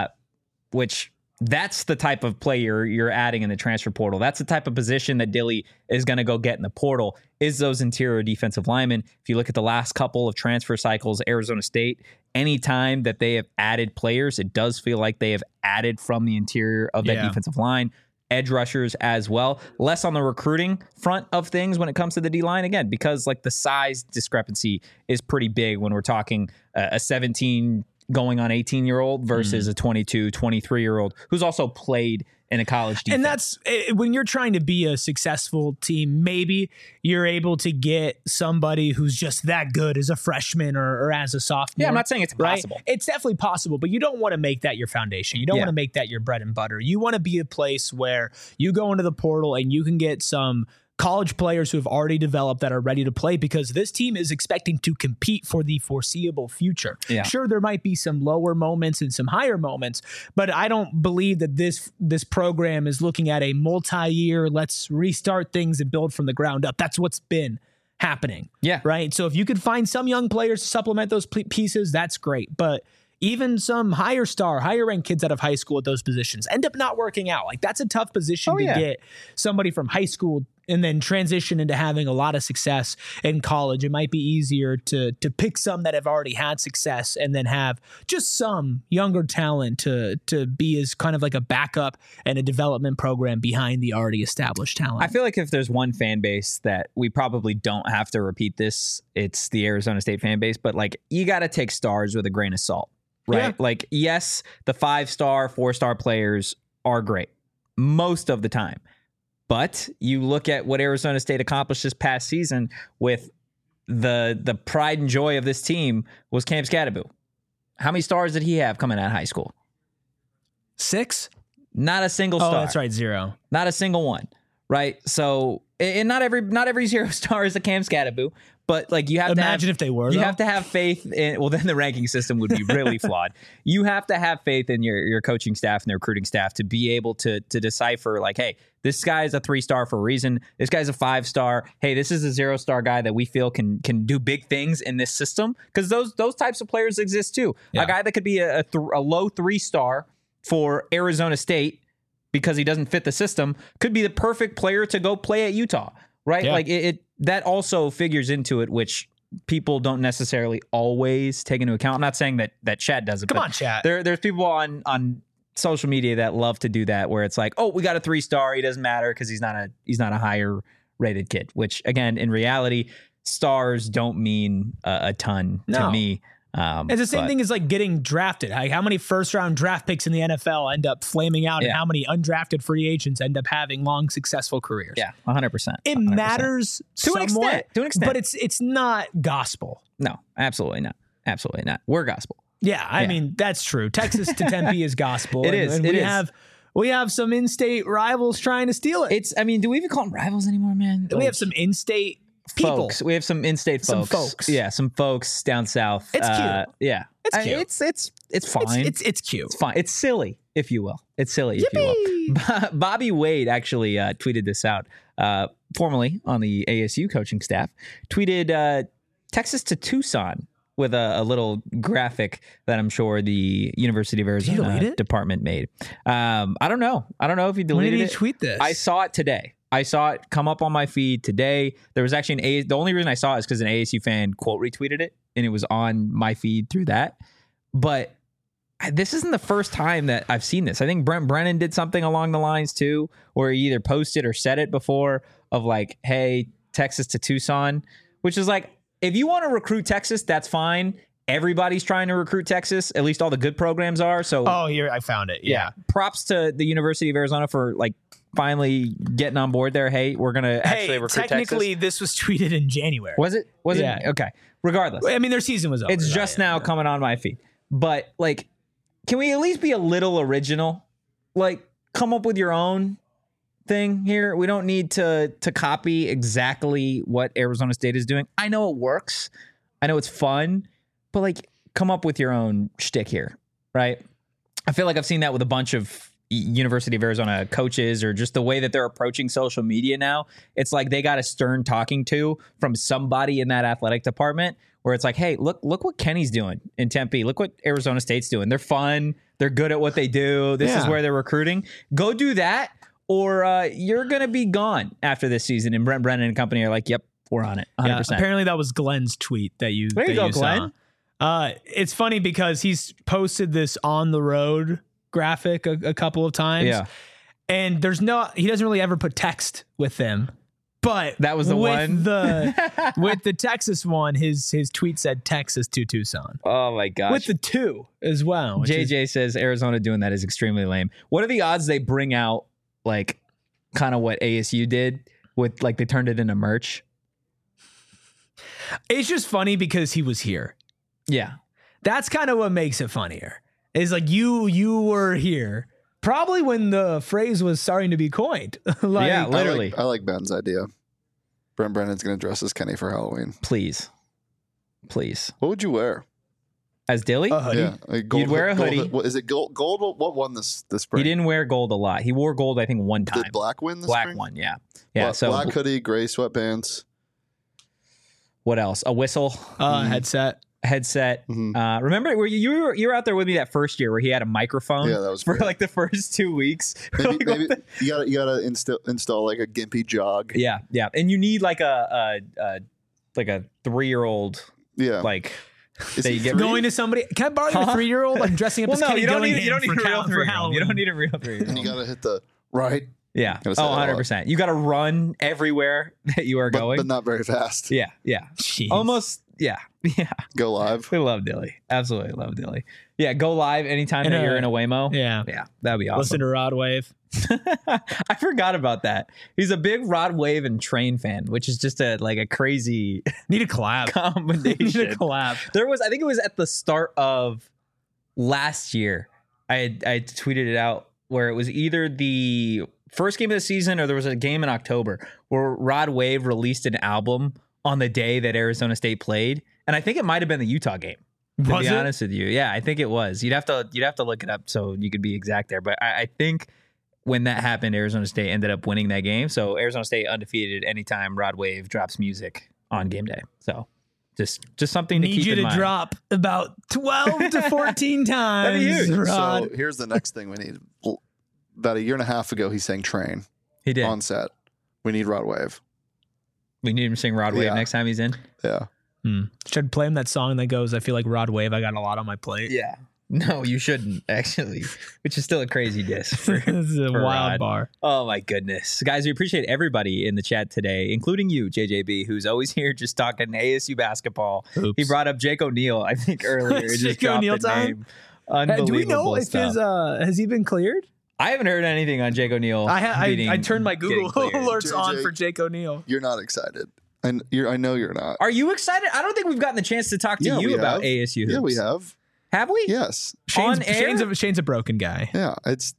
which that's the type of player you're adding in the transfer portal. That's the type of position that Dilly is going to go get in the portal, is those interior defensive linemen. If you look at the last couple of transfer cycles, Arizona State, anytime that they have added players, it does feel like they have added from the interior of that defensive line. Edge rushers as well. Less on the recruiting front of things when it comes to the D-line, again, because like the size discrepancy is pretty big when we're talking a 17 going on 18-year-old versus a 22, 23-year-old who's also played in a college defense. And that's when you're trying to be a successful team, maybe you're able to get somebody who's just that good as a freshman or as a sophomore. Yeah, I'm not saying it's impossible. Right? It's definitely possible, but you don't want to make that your foundation. You don't want to make that your bread and butter. You want to be a place where you go into the portal and you can get some college players who have already developed that are ready to play, because this team is expecting to compete for the foreseeable future. Yeah. Sure, there might be some lower moments and some higher moments, but I don't believe that this program is looking at a multi-year, let's restart things and build from the ground up. That's what's been happening. Yeah. Right. So if you could find some young players to supplement those pieces, that's great. But even some higher ranked kids out of high school at those positions end up not working out. Like, that's a tough position to get somebody from high school and then transition into having a lot of success in college. It might be easier to pick some that have already had success and then have just some younger talent to be as kind of like a backup and a development program behind the already established talent. I feel like if there's one fan base that we probably don't have to repeat this, it's the Arizona State fan base. But like, you got to take stars with a grain of salt. Right. Yeah. Like, yes, the 5-star, 4-star players are great most of the time. But you look at what Arizona State accomplished this past season with the pride and joy of this team was Cam Skattebo. How many stars did he have coming out of high school? 6? Not a single star. Oh, that's right, 0. Not a single one. Right. So, and not every 0-star is a Cam Skattebo. But like, you have imagine if they were. You have to have faith in. Well, then the ranking system would be really flawed. You have to have faith in your coaching staff and their recruiting staff to be able to decipher, like, hey, this guy is a 3-star for a reason. This guy's a 5-star. Hey, this is a 0-star guy that we feel can do big things in this system, because those types of players exist too. Yeah. A guy that could be a low 3-star for Arizona State because he doesn't fit the system could be the perfect player to go play at Utah. Right. Yeah. Like it that also figures into it, which people don't necessarily always take into account. I'm not saying that Chad does it. Come on, Chad. There's people on social media that love to do that, where it's like, oh, we got a 3-star. He doesn't matter because he's not a higher rated kid, which again, in reality, stars don't mean a ton to me. It's the same thing as like getting drafted. Like, how many first-round draft picks in the NFL end up flaming out, and how many undrafted free agents end up having long, successful careers? Yeah, 100%. It matters to an extent, but it's not gospel. No, absolutely not. Absolutely not. We're gospel. Yeah, I mean, that's true. Texas to Tempe is gospel. It is. We have some in-state rivals trying to steal it. Do we even call them rivals anymore, man? We have some in-state people. Folks. We have some in-state folks. Yeah, some folks down south. It's cute. Yeah. It's cute. It's fine. It's cute. It's fine. It's silly, if you will. It's silly, if you will. Bobby Wade actually tweeted this out, formerly on the ASU coaching staff, tweeted Texas to Tucson with a little graphic that I'm sure the University of Arizona department made. I don't know if he deleted it. When did he tweet this? I saw it today. I saw it come up on my feed today. There was actually the only reason I saw it is because an ASU fan quote retweeted it, and it was on my feed through that. But this isn't the first time that I've seen this. I think Brent Brennan did something along the lines too, where he either posted or said it before, of like, hey, Texas to Tucson, which is like, if you want to recruit Texas, that's fine. Everybody's trying to recruit Texas. At least all the good programs are. So, here, I found it. Yeah. Props to the University of Arizona for like finally getting on board there. Hey, we're going to actually recruit Texas. Technically, this was tweeted in January. Was it? Yeah. Okay. Regardless. I mean, their season was over. It's just now coming on my feed. But like, can we at least be a little original? Like, come up with your own thing here. We don't need to copy exactly what Arizona State is doing. I know it works. I know it's fun. But like, come up with your own shtick here, right? I feel like I've seen that with a bunch of University of Arizona coaches, or just the way that they're approaching social media now. It's like they got a stern talking to from somebody in that athletic department, where it's like, hey, look what Kenny's doing in Tempe. Look what Arizona State's doing. They're fun. They're good at what they do. This is where they're recruiting. Go do that, or you're going to be gone after this season. And Brent Brennan and company are like, yep, we're on it. 100%. Yeah, apparently that was Glenn's tweet that you There you go, Glenn. It's funny because he's posted this on the road graphic a couple of times. Yeah. And he doesn't really ever put text with them. But that was the one. With the Texas one, his tweet said Texas to Tucson. Oh my gosh. With the 2 as well. JJ says Arizona doing that is extremely lame. What are the odds they bring out like kind of what ASU did with, like, they turned it into merch? It's just funny because he was here. Yeah. That's kind of what makes it funnier. It's like you were here probably when the phrase was starting to be coined. Yeah, literally. I like Ben's idea. Brent Brennan's going to dress as Kenny for Halloween. Please. What would you wear? As Dilly? A hoodie. Yeah, You'd wear a hoodie. Is it gold? What won this spring? He didn't wear gold a lot. He wore gold, I think, one time. Did black win this Black spring? one, yeah. Yeah. So black hoodie, gray sweatpants. What else? A whistle, Headset. Mm-hmm. Remember, where you were out there with me that first year where he had a microphone? Yeah, that was for great. like the first 2 weeks. Maybe you gotta install like a gimpy jog. Yeah, and you need like a 3-year-old. Yeah, like. Is he Going to somebody? Can I borrow your 3-year-old? I'm dressing up as Kenny you don't need a real 3-year-old. You don't need a real 3-year-old. And you gotta hit the right. Yeah. Gotta say 100%. You got to run everywhere that you are going. But not very fast. Yeah. Jeez. Almost. Yeah. Go live. We love Dilly. Absolutely love Dilly. Yeah. Go live anytime that you're in a Waymo. Yeah. That'd be awesome. Listen to Rod Wave. I forgot about that. He's a big Rod Wave and Train fan, which is just a crazy Need a collab. combination. Need a collab. I think it was at the start of last year. I tweeted it out where it was either the first game of the season or there was a game in October where Rod Wave released an album on the day that Arizona State played. And I think it might have been the Utah game. To be honest with you. Yeah, I think it was. You'd have to look it up so you could be exact there. But I think when that happened, Arizona State ended up winning that game. So Arizona State undefeated anytime Rod Wave drops music on game day. So just something to keep in mind. Need you to drop about 12 to 14 times. That'd be huge. Rod. So here's the next thing we need. About a year and a half ago, he sang Train. He did. On set. We need Rod Wave. We need him to sing Rod Wave next time he's in. Yeah. Should play him that song that goes, I feel like Rod Wave, I got a lot on my plate. Yeah. No, you shouldn't, actually, which is still a crazy diss. This is a wild Rod. bar. Oh, my goodness. Guys, we appreciate everybody in the chat today, including you, JJB, who's always here just talking ASU basketball. Oops. He brought up Jake O'Neal, I think, earlier. Just Jake dropped O'Neal the time? name. Unbelievable Do we know if stuff. his has he been cleared? I haven't heard anything on Jake O'Neal. I turned my Google getting cleared. alerts on JJ. for Jake O'Neal. You're not excited. And I know you're not. Are you excited? I don't think we've gotten the chance to talk to Yeah, you we about have. ASU hoops. Yeah, we have. Have we? Yes. Shane's, On air? Shane's a broken guy. Yeah. It's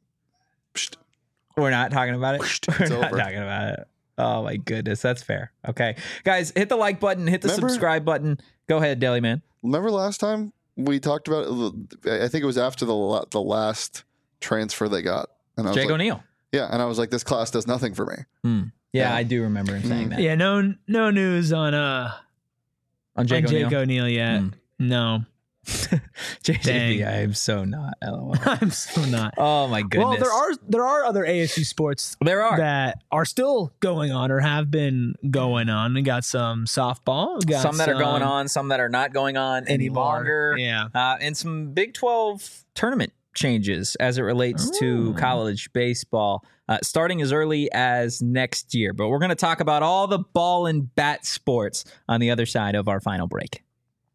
We're not talking about it. We're not over. talking about it. Oh my goodness, that's fair. Okay, guys, hit the like button, hit the subscribe button. Go ahead, Deli Man. Remember last time we talked about it? I think it was after the last transfer they got. And I was Jake like, O'Neal. Yeah, and I was like, this class does nothing for me. Yeah, I do remember him saying that. Yeah, no news on Jake O'Neal. O'Neal yet. No. JJB, Dang. I am so not. LOL. I'm so not. Oh my goodness. Well, there are other ASU sports There are. that are still going on or have been going on. We got some softball. We got Some that are going on, some that are not going on any anymore. longer. Yeah. And some Big 12 tournament changes as it relates to college baseball, starting as early as next year. But we're going to talk about all the ball and bat sports on the other side of our final break.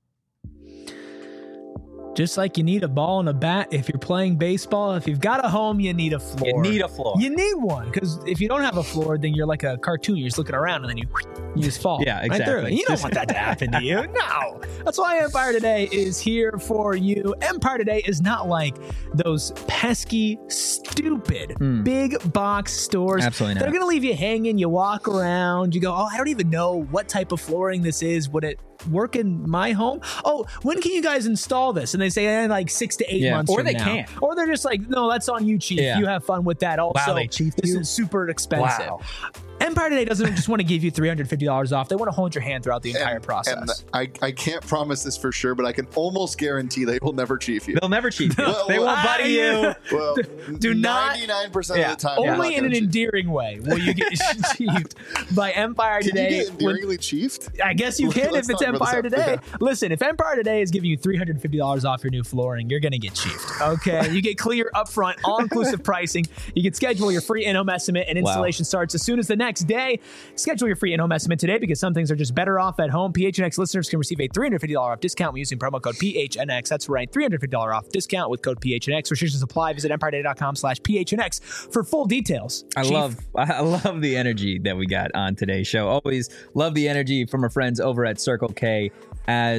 Just like you need a ball and a bat if you're playing baseball, if you've got a home, you need a floor. You need a floor. You need one, because if you don't have a floor, then you're like a cartoon. You're just looking around and then you just fall. Yeah, right through exactly. it. You don't want that to happen to you. No. That's why Empire Today is here for you. Empire Today is not like those pesky, stupid, big box stores. Absolutely not. They're going to leave you hanging. You walk around. You go, oh, I don't even know what type of flooring this is. Would it work in my home? Oh, when can you guys install this? And they say like 6 to 8 months or from they now. can't. Or they're just like, no, that's on you, Chief. Yeah. You have fun with that. Also, they chiefed this you? is super expensive. Wow. Empire Today doesn't just want to give you $350 off. They want to hold your hand throughout the entire process. And I can't promise this for sure, but I can almost guarantee they will never chief you. They'll never cheat you. Well, They won't buddy you. Well, Do not- 99% of Yeah. the time. Only in an endearing way will you get chiefed by Empire Can Today. you get endearingly chiefed? I guess you can Let's if it's not bring this Empire up. Today. Yeah. Listen, if Empire Today is giving you $350 off your new flooring, you're going to get chiefed. Okay? You get clear upfront, all-inclusive pricing. You can schedule your free in-home estimate, and installation starts as soon as the next day. Schedule your free in-home estimate today because some things are just better off at home. PHNX listeners can receive a $350 off discount when using promo code PHNX. That's right, $350 off discount with code PHNX. Restrictions apply. Visit EmpireToday.com/PHNX for full details. I love the energy that we got on today's show. Always love the energy from our friends over at Circle K as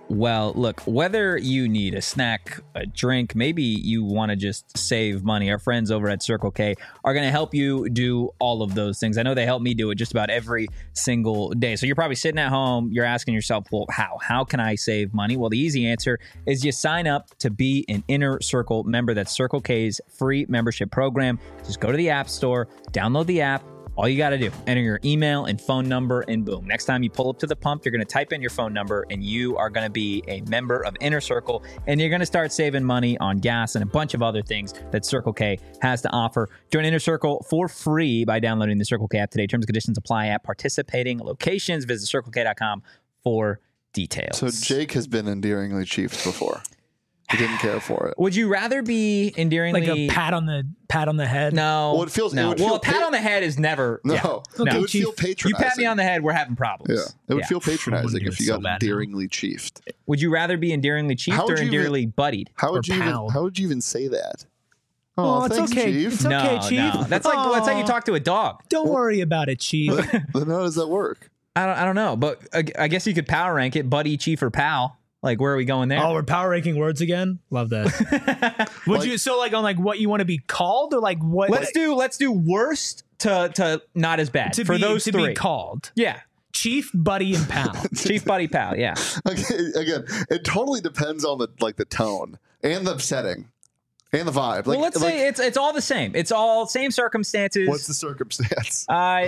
Well, look, whether you need a snack, a drink, maybe you want to just save money, our friends over at Circle K are going to help you do all of those things. I know they help me do it just about every single day. So you're probably sitting at home, you're asking yourself, well, how can I save money? Well, the easy answer is you sign up to be an Inner Circle member. That's Circle K's free membership program. Just go to the App Store, download the app. All you got to do, enter your email and phone number, and boom. Next time you pull up to the pump, you're going to type in your phone number, and you are going to be a member of Inner Circle, and you're going to start saving money on gas and a bunch of other things that Circle K has to offer. Join Inner Circle for free by downloading the Circle K app today. Terms and conditions apply at participating locations. Visit CircleK.com for details. So Jake has been endearingly chiefed before. He didn't care for it. Would you rather be endearingly... Like a pat on the head? No. Well, it feels... No. It would feel a pat on the head is never... No. Yeah. Okay, it would feel patronizing. You pat me on the head, we're having problems. Yeah. It would feel patronizing if you got endearingly chiefed. Would you rather be endearingly chiefed or endearingly buddied? How would you even say that? Oh, it's thanks, okay. Chief. It's okay, Chief. No. That's how you talk to a dog. Don't worry about it, Chief. Then how does that work? I don't know, but I guess you could power rank it, buddy, chief, or pal. Like, where are we going there? Oh, we're power ranking words again? Love that. Would you on what you want to be called, or like what? Let's do worst to not as bad for those three. Be called. Yeah. Chief, buddy, and pal. Chief, buddy, pal. Yeah. Okay, again, it totally depends on the tone and the setting and the vibe. Well, let's say it's all the same. It's all same circumstances. What's the circumstance?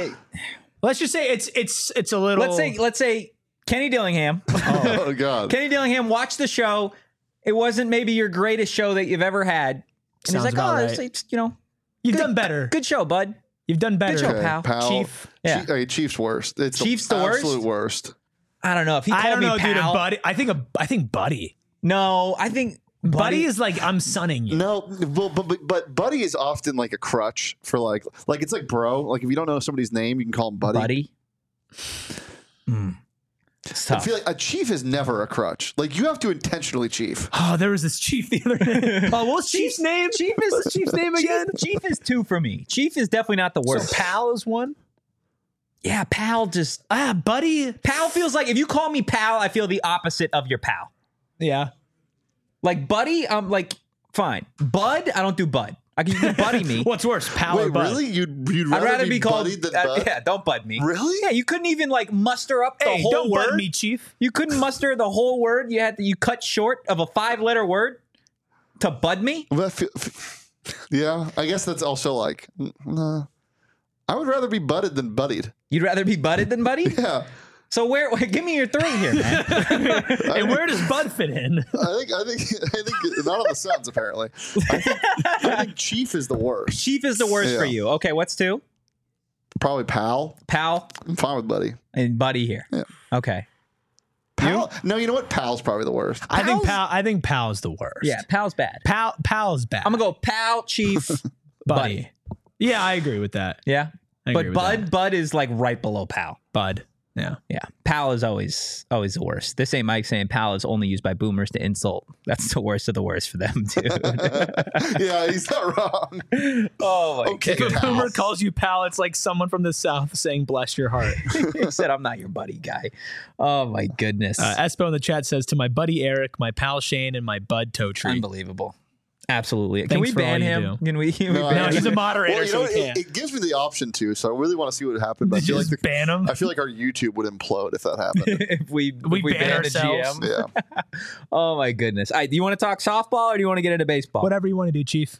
Let's just say it's a little. Let's say Kenny Dillingham. Oh God. Kenny Dillingham watched the show. It wasn't maybe your greatest show that you've ever had. And he's like, it's you've done better. Good show, bud. You've done better. Good show, pal. Chief. Yeah. Chief's worst. It's Chief's the worst? absolute worst. I don't know. If he called me pal. Dude, buddy. I think buddy. No, I think buddy is like, I'm sunning you. No, but buddy is often like a crutch for like it's like bro. Like if you don't know somebody's name, you can call him buddy. It's tough. I feel like a chief is never a crutch. Like you have to intentionally chief. Oh, there was this chief the other day. Oh, what's Chief's name? What's Chief's name again? Chief is 2 for me. Chief is definitely not the worst. So pal is 1? Yeah, pal just... buddy. Pal feels like, if you call me pal, I feel the opposite of your pal. Yeah. Like buddy, I'm like, fine. Bud, I don't do bud. You can buddy me. What's worse, pal or bud? Really? You'd rather be called buddied than bud? Yeah, don't bud me. Really? Yeah, you couldn't even like muster up the whole don't word. Bud me, Chief. You couldn't muster the whole word. You cut short of a 5-letter word to bud me. Yeah, I guess that's also like, nah. I would rather be budded than buddied. You'd rather be budded than buddy? Yeah. So give me your 3 here, man. And where does Bud fit in? I think not on the Suns apparently. I think Chief is the worst. Chief is the worst for you. Okay, what's 2? Probably pal. Pal. I'm fine with buddy. And buddy here. Yeah. Okay. Pal. No, you know what? Pal's probably the worst. I think pal's the worst. Yeah, pal's bad. Pal's bad. I'm gonna go pal, chief, buddy. Yeah, I agree with that. Yeah. But bud is like right below pal. Bud. Yeah. Yeah. Pal is always the worst. This ain't Mike saying pal is only used by boomers to insult. That's the worst of the worst for them, dude. Yeah, he's not wrong. Oh my God. If a boomer calls you pal, it's like someone from the South saying bless your heart. He said, I'm not your buddy guy. Oh my goodness. Espo in the chat says, to my buddy Eric, my pal Shane, and my bud Totri. Unbelievable. Absolutely. Thanks can we ban him? Can we No, he's a moderator, so we can't. It gives me the option to, so I really want to see what would happen. But Did you just ban him? I feel like our YouTube would implode if that happened. if we ban ourselves. The GM. Yeah. Oh my goodness. All right, do you want to talk softball or do you want to get into baseball? Whatever you want to do, Chief.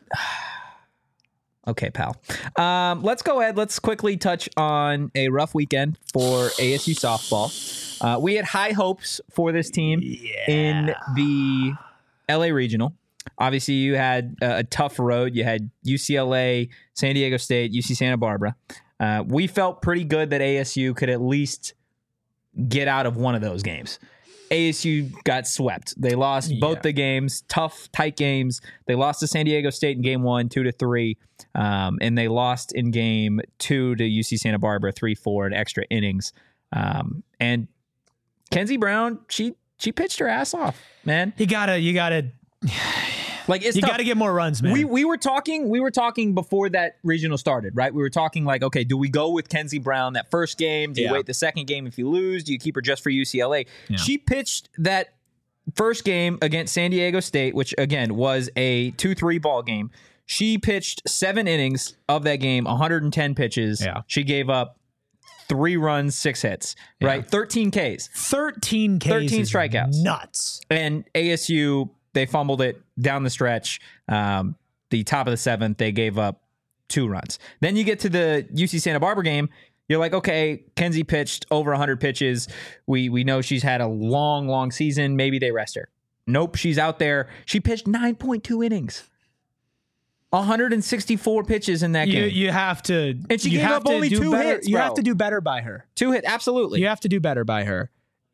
Okay, pal. Let's go ahead. Let's quickly touch on a rough weekend for ASU softball. We had high hopes for this team in the LA Regional. Obviously, you had a tough road. You had UCLA, San Diego State, UC Santa Barbara. We felt pretty good that ASU could at least get out of one of those games. ASU got swept. They lost both the games, tough, tight games. They lost to San Diego State in game 1, 2-3. And they lost in game 2 to UC Santa Barbara, 3-4 in extra innings. And Kenzie Brown, she pitched her ass off, man. You gotta like you got to get more runs, man. We were talking before that regional started, right? We were talking like, okay, do we go with Kenzie Brown that first game? Do you wait the second game if you lose? Do you keep her just for UCLA? Yeah. She pitched that first game against San Diego State, which again was a 2-3 ball game. She pitched 7 innings of that game, 110 pitches. Yeah. She gave up 3 runs, 6 hits, right? 13 Ks. 13 Ks. 13 strikeouts. Nuts. And ASU, they fumbled it down the stretch. The top of the 7th, they gave up 2 runs. Then you get to the UC Santa Barbara game. You're like, okay, Kenzie pitched over 100 pitches. We know she's had a long season. Maybe they rest her. Nope, she's out there. She pitched 9.2 innings. 164 pitches in that game. You have to. And she gave up only 2 hits. You have to do better by her. 2 hits, absolutely. You have to do better by her.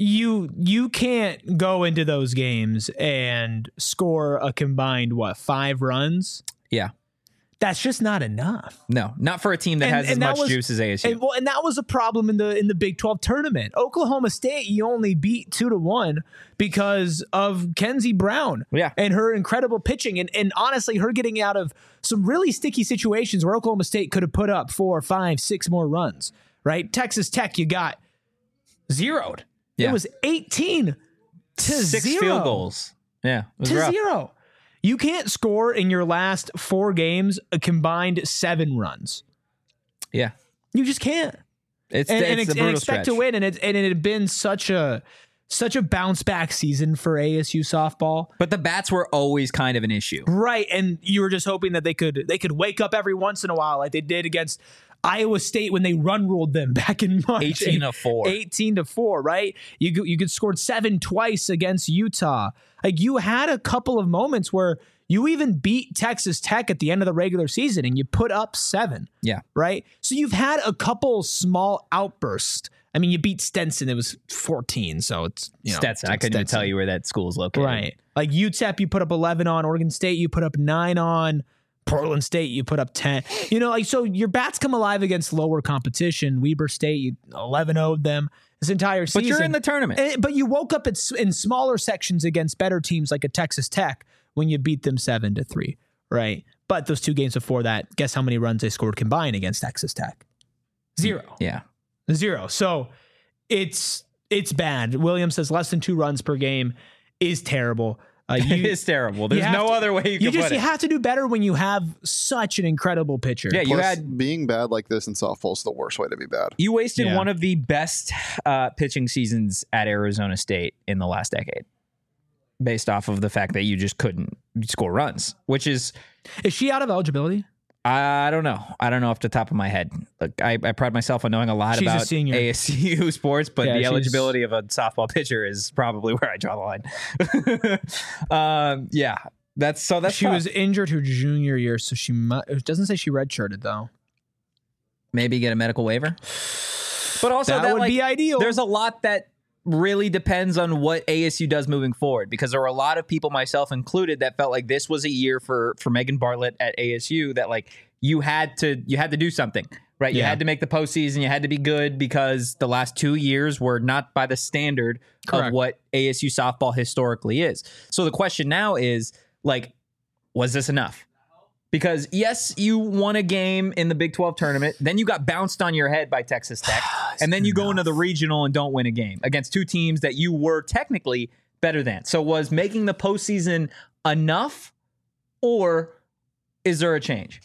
You can't go into those games and score a combined 5 runs. Yeah. That's just not enough. No, not for a team that has as much juice as ASU. And that was a problem in the Big 12 tournament. Oklahoma State, you only beat 2-1 because of Kenzie Brown and her incredible pitching. And honestly, her getting out of some really sticky situations where Oklahoma State could have put up 4, 5, 6 more runs, right? Texas Tech, you got zeroed. Yeah. It was 18 to 6 0. field goals. Yeah. To rough. 0. You can't score in your last 4 games a combined 7 runs. Yeah. You just can't. It's and a brutal expect stretch. to win. And it had been such a bounce back season for ASU softball. But the bats were always kind of an issue. Right. And you were just hoping that they could wake up every once in a while like they did against Iowa State when they run ruled them back in March. 18-4. 18-4, right? You could scored 7 twice against Utah. Like you had a couple of moments where you even beat Texas Tech at the end of the regular season and you put up 7. Yeah. Right? So you've had a couple small outbursts. I mean, you beat Stetson. It was 14, so it's Stetson. I couldn't even tell you where that school is located. Right. Like UTEP, you put up 11 on. Oregon State, you put up 9 on. Portland State, you put up 10. So your bats come alive against lower competition. Weber State, you 11-0'd them this entire season. But you're in the tournament. But you woke up in smaller sections against better teams like a Texas Tech when you beat them 7-3, right? But those 2 games before that, guess how many runs they scored combined against Texas Tech? 0. Yeah. 0. So it's bad. Williams says less than 2 runs per game is terrible. It is terrible. There's no other way you can put it. You have to do better when you have such an incredible pitcher. Yeah, Plus, being bad like this in softball is the worst way to be bad. You wasted one of the best pitching seasons at Arizona State in the last decade, based off of the fact that you just couldn't score runs. Which is she out of eligibility? I don't know. I don't know off the top of my head. Look, I pride myself on knowing a lot about ASU sports, but the eligibility of a softball pitcher is probably where I draw the line. That's she tough. Was injured her junior year, so it doesn't say she redshirted though. Maybe get a medical waiver. But also that would be ideal. There's a lot that really depends on what ASU does moving forward, because there were a lot of people, myself included, that felt like this was a year for Megan Bartlett at ASU that like you had to do something, right? You had to make the postseason. You had to be good because the last 2 years were not by the standard of what ASU softball historically is. So the question now is like, was this enough? Because yes, you won a game in the Big 12 tournament, then you got bounced on your head by Texas Tech, and then you go into the regional and don't win a game against 2 teams that you were technically better than. So was making the postseason enough, or is there a change?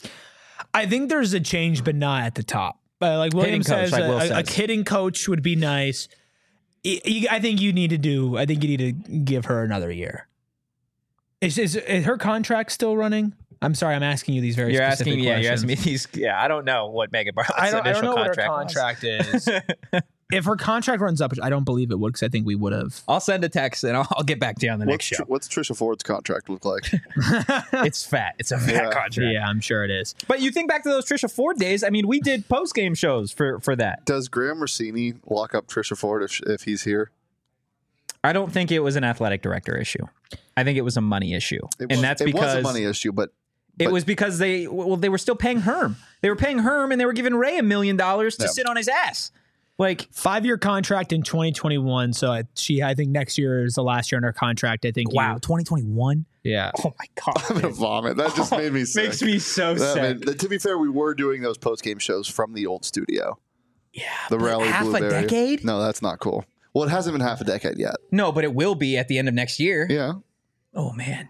I think there's a change, but not at the top. Like William says, a hitting coach would be nice. I think you need to give her another year. Is her contract still running? I'm sorry, I'm asking you these very specific questions. You're asking me these. Yeah, I don't know what Megan Bartlett's initial contract is. If her contract runs up, which I don't believe it would, because I think we would have. I'll send a text and I'll get back to you on the next show. What's Trisha Ford's contract look like? It's fat. It's a fat contract. Yeah, I'm sure it is. But you think back to those Trisha Ford days. I mean, we did post-game shows for that. Does Graham Rossini lock up Trisha Ford if he's here? I don't think it was an athletic director issue. I think it was a money issue. It was a money issue, but it was because they were still paying Herm. They were paying Herm, and they were giving Ray $1 million to sit on his ass. Like 5-year contract in 2021. So I think next year is the last year in her contract. I think. Wow, 2021. Yeah. Oh my god. I'm gonna vomit. That just made me sick. Makes me so sick. To be fair, we were doing those post game shows from the old studio. Yeah. The Rally half Blueberry. A decade. No, that's not cool. Well, it hasn't been half a decade yet. No, but it will be at the end of next year. Yeah. Oh, man.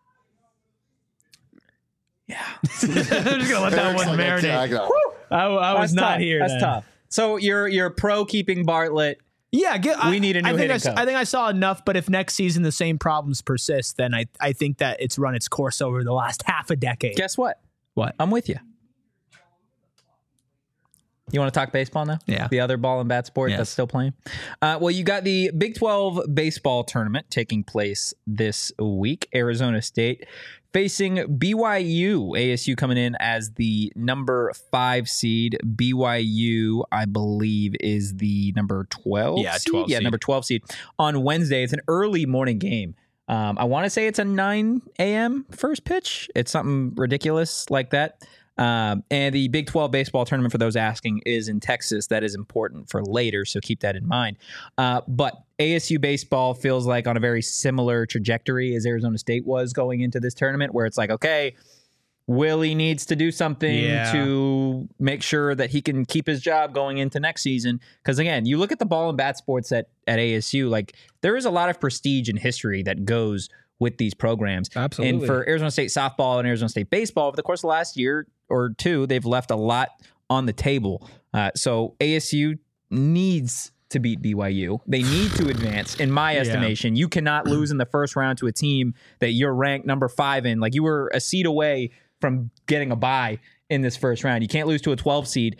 Yeah. I'm just going to let that one marinate. I was not here. That's tough. So you're pro keeping Bartlett. Yeah, we need a new hitting coach. I think I saw enough, but if next season the same problems persist, then I think that it's run its course over the last half a decade. Guess what? What? I'm with you. You want to talk baseball now? Yeah. The other ball and bat sport that's still playing? Well, you got the Big 12 baseball tournament taking place this week. Arizona State facing BYU. ASU coming in as the number 5 seed. BYU, I believe, is the number 12 seed. 12 Yeah, seed. number 12 seed on Wednesday. It's an early morning game. I want to say it's a 9 a.m. first pitch. It's something ridiculous like that. And the Big 12 baseball tournament, for those asking, is in Texas. That is important for later, so keep that in mind. But ASU baseball feels like on a very similar trajectory as Arizona State was going into this tournament, where it's like, okay, Willie needs to do something to make sure that he can keep his job going into next season. Because again, you look at the ball and bat sports at ASU, like there is a lot of prestige and history that goes with these programs. Absolutely. And for Arizona State softball and Arizona State baseball, over the course of the last year or two, they've left a lot on the table. So ASU needs to beat BYU. They need to advance, in my estimation. You cannot lose in the first round to a team that you're ranked number 5 in. Like, you were a seed away from getting a bye in this first round. You can't lose to a 12 seed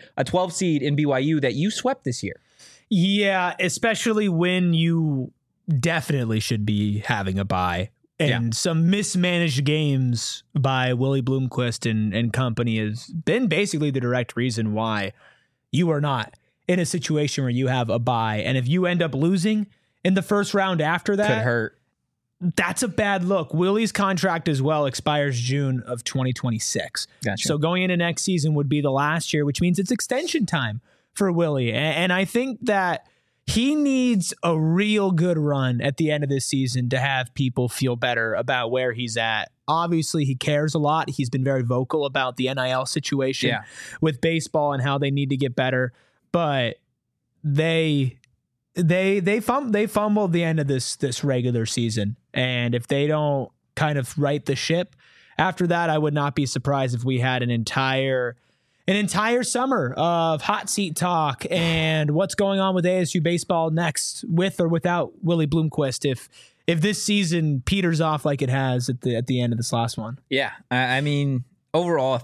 in BYU that you swept this year. Yeah, especially when you definitely should be having a bye. And some mismanaged games by Willie Bloomquist and company has been basically the direct reason why you are not in a situation where you have a bye. And if you end up losing in the first round after that, could hurt. That's a bad look. Willie's contract as well expires June of 2026. Gotcha. So going into next season would be the last year, which means it's extension time for Willie. And I think that he needs a real good run at the end of this season to have people feel better about where he's at. Obviously, he cares a lot. He's been very vocal about the NIL situation with baseball and how they need to get better. But they fumbled the end of this regular season. And if they don't kind of right the ship after that, I would not be surprised if we had an entire summer of hot seat talk and what's going on with ASU baseball next, with or without Willie Bloomquist, if this season peters off like it has at the end of this last one. Yeah, I mean, overall,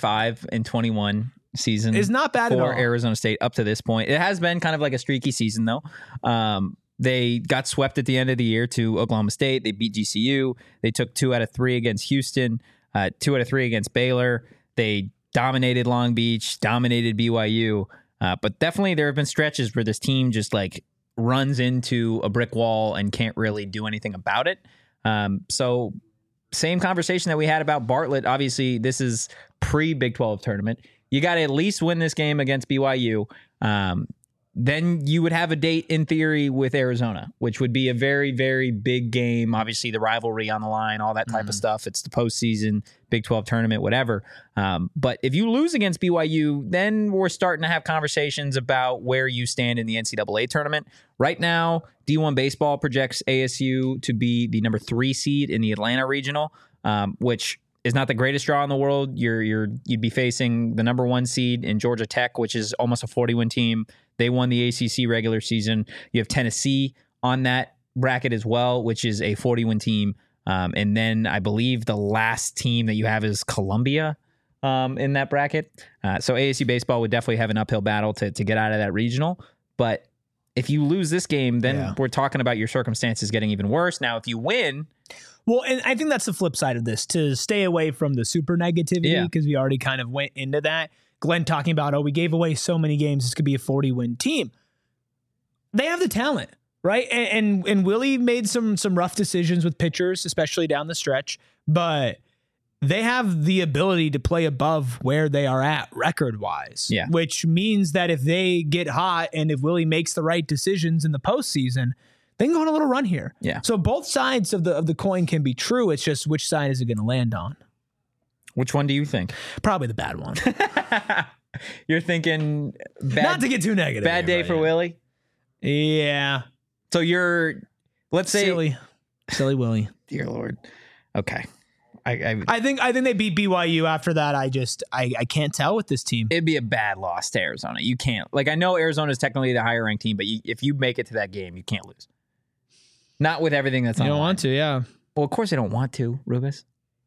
35-21 season is not bad at all for Arizona State up to this point. It has been kind of like a streaky season, though. They got swept at the end of the year to Oklahoma State. They beat GCU. They took 2 out of 3 against Houston, 2 out of 3 against Baylor. They dominated Long Beach, dominated BYU. But definitely there have been stretches where this team just like runs into a brick wall and can't really do anything about it. So same conversation that we had about Bartlett. Obviously, this is pre-Big 12 tournament. You got to at least win this game against BYU. Then you would have a date in theory with Arizona, which would be a very, very big game. Obviously, the rivalry on the line, all that type of stuff. It's the postseason, Big 12 tournament, whatever. But if you lose against BYU, then we're starting to have conversations about where you stand in the NCAA tournament. Right now, D1 Baseball projects ASU to be the number 3 seed in the Atlanta Regional, which is not the greatest draw in the world. You'd be facing the number 1 seed in Georgia Tech, which is almost a 40-win team. They won the ACC regular season. You have Tennessee on that bracket as well, which is a 40-win team. And then I believe the last team that you have is Columbia in that bracket. So ASU baseball would definitely have an uphill battle to get out of that regional. But if you lose this game, then we're talking about your circumstances getting even worse. Now, if you win... Well, and I think that's the flip side of this, to stay away from the super negativity, because we already kind of went into that. Glenn talking about, we gave away so many games, this could be a 40-win team. They have the talent, right? And Willie made some rough decisions with pitchers, especially down the stretch, but they have the ability to play above where they are at record-wise, which means that if they get hot and if Willie makes the right decisions in the postseason, they can go on a little run here. Yeah. So both sides of the coin can be true. It's just which side is it going to land on? Which one do you think? Probably the bad one. You're thinking bad, not to get too negative. Bad day for Willie? Yeah. So you're, let's say, silly Willie. Dear Lord. Okay. I think they beat BYU. After that, I can't tell with this team. It'd be a bad loss to Arizona. You can't. Like, I know Arizona is technically the higher ranked team, but if you make it to that game, you can't lose. Not with everything that's on. You don't want to, yeah. Well, of course they don't want to, Rubus.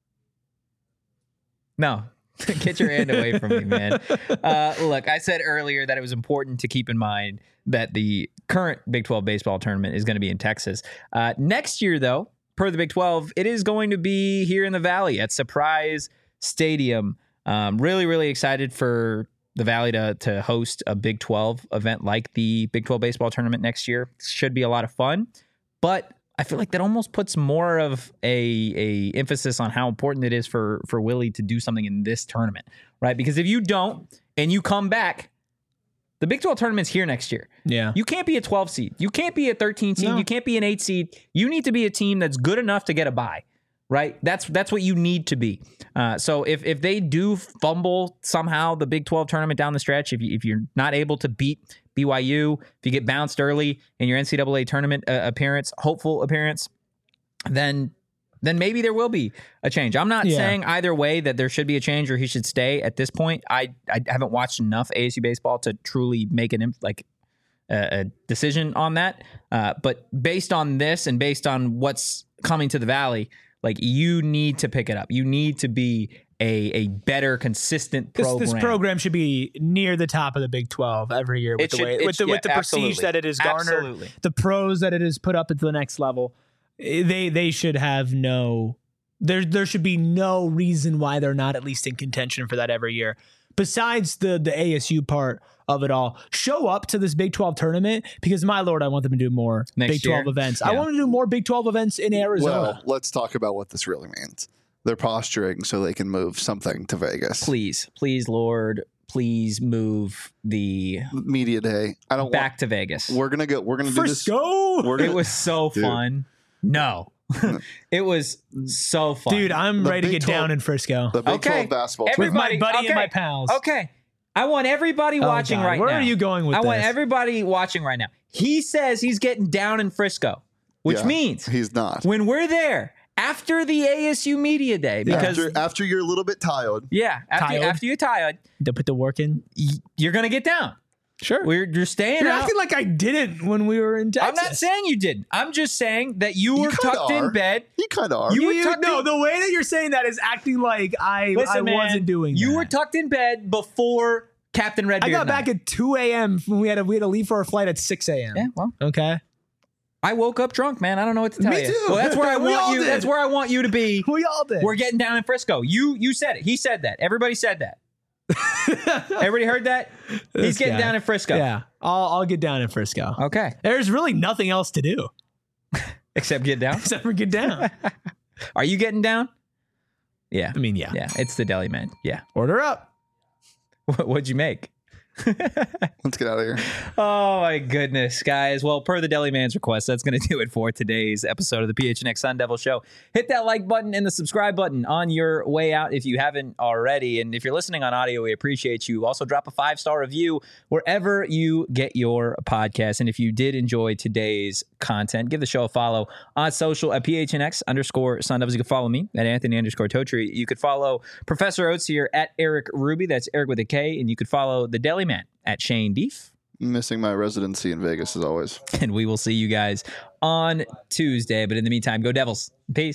No. Get your hand away from me, man. Look, I said earlier that it was important to keep in mind that the current Big 12 baseball tournament is going to be in Texas. Next year, though, per the Big 12, it is going to be here in the Valley at Surprise Stadium. Really, really excited for the Valley to host a Big 12 event like the Big 12 baseball tournament next year. Should be a lot of fun, but I feel like that almost puts more of a emphasis on how important it is for Willie to do something in this tournament, right? Because if you don't and you come back, the Big 12 tournament's here next year. Yeah. You can't be a 12 seed. You can't be a 13 seed. No. You can't be an 8 seed. You need to be a team that's good enough to get a bye, right? That's what you need to be. So if they do fumble somehow the Big 12 tournament down the stretch, if you're not able to beat BYU, if you get bounced early in your NCAA tournament hopeful appearance, then maybe there will be a change. I'm not saying either way that there should be a change or he should stay at this point. I haven't watched enough ASU baseball to truly make a decision on that. But based on this and based on what's coming to the Valley, like, you need to pick it up. You need to be a better, consistent program. This program should be near the top of the Big 12 every year with the prestige that it has garnered, absolutely. The pros that it has put up at the next level. They should have there should be no reason why they're not at least in contention for that every year. Besides the ASU part of it all, show up to this Big 12 tournament, because, my Lord, I want them to do more Big 12 events. Yeah. I want to do more Big 12 events in Arizona. Well, let's talk about what this really means. They're posturing so they can move something to Vegas. Please, Lord, please move the media day. Back to Vegas. We're gonna do this. Frisco. It was so fun. No. It was so fun. Dude, I'm ready to get down in Frisco. The Big 12 basketball with my buddy and my pals. Okay. I want everybody watching right now. Where are you going with this? I want everybody watching right now. He says he's getting down in Frisco, which means he's not. When we're there, after the ASU Media Day, because after you're a little bit tired. Yeah. After you're tired. To put the work in. You're going to get down. Sure. You're staying You're out. acting like I didn't when we were in Texas. I'm not saying you didn't. I'm just saying that you were tucked in bed. You kind of are. The way that you're saying that is acting like I wasn't doing that. You were tucked in bed before Captain Redbeard. I got back at 2 a.m. when we had to leave for our flight at 6 a.m. Yeah, well. Okay. I woke up drunk, man. I don't know what to tell you. Me too. Well, that's where I want you. Did. That's where I want you to be. We all did. We're getting down in Frisco. You said it. He said that. Everybody said that. Everybody heard that? He's getting down in Frisco. Yeah. I'll get down in Frisco. Okay. There's really nothing else to do. Except get down? Except for get down. Are you getting down? Yeah. I mean, yeah. Yeah. It's the Deli Man. Yeah. Order up. What'd you make? Let's get out of here. Oh my goodness, guys. Well, per the Deli Man's request, that's going to do it for today's episode of the PHNX Sun Devil Show. Hit that like button and the subscribe button on your way out if you haven't already. And if you're listening on audio, we appreciate you. Also, drop a 5-star review wherever you get your podcast. And if you did enjoy today's content, give the show a follow on social at PHNX_Sun Devils. You can follow me at Anthony_Totri. You could follow Professor Oates here at Eric Ruby. That's Eric with a K. And you could follow the Deli Man at Shane Deef. Missing my residency in Vegas as always. And we will see you guys on Tuesday. But in the meantime, go Devils. Peace.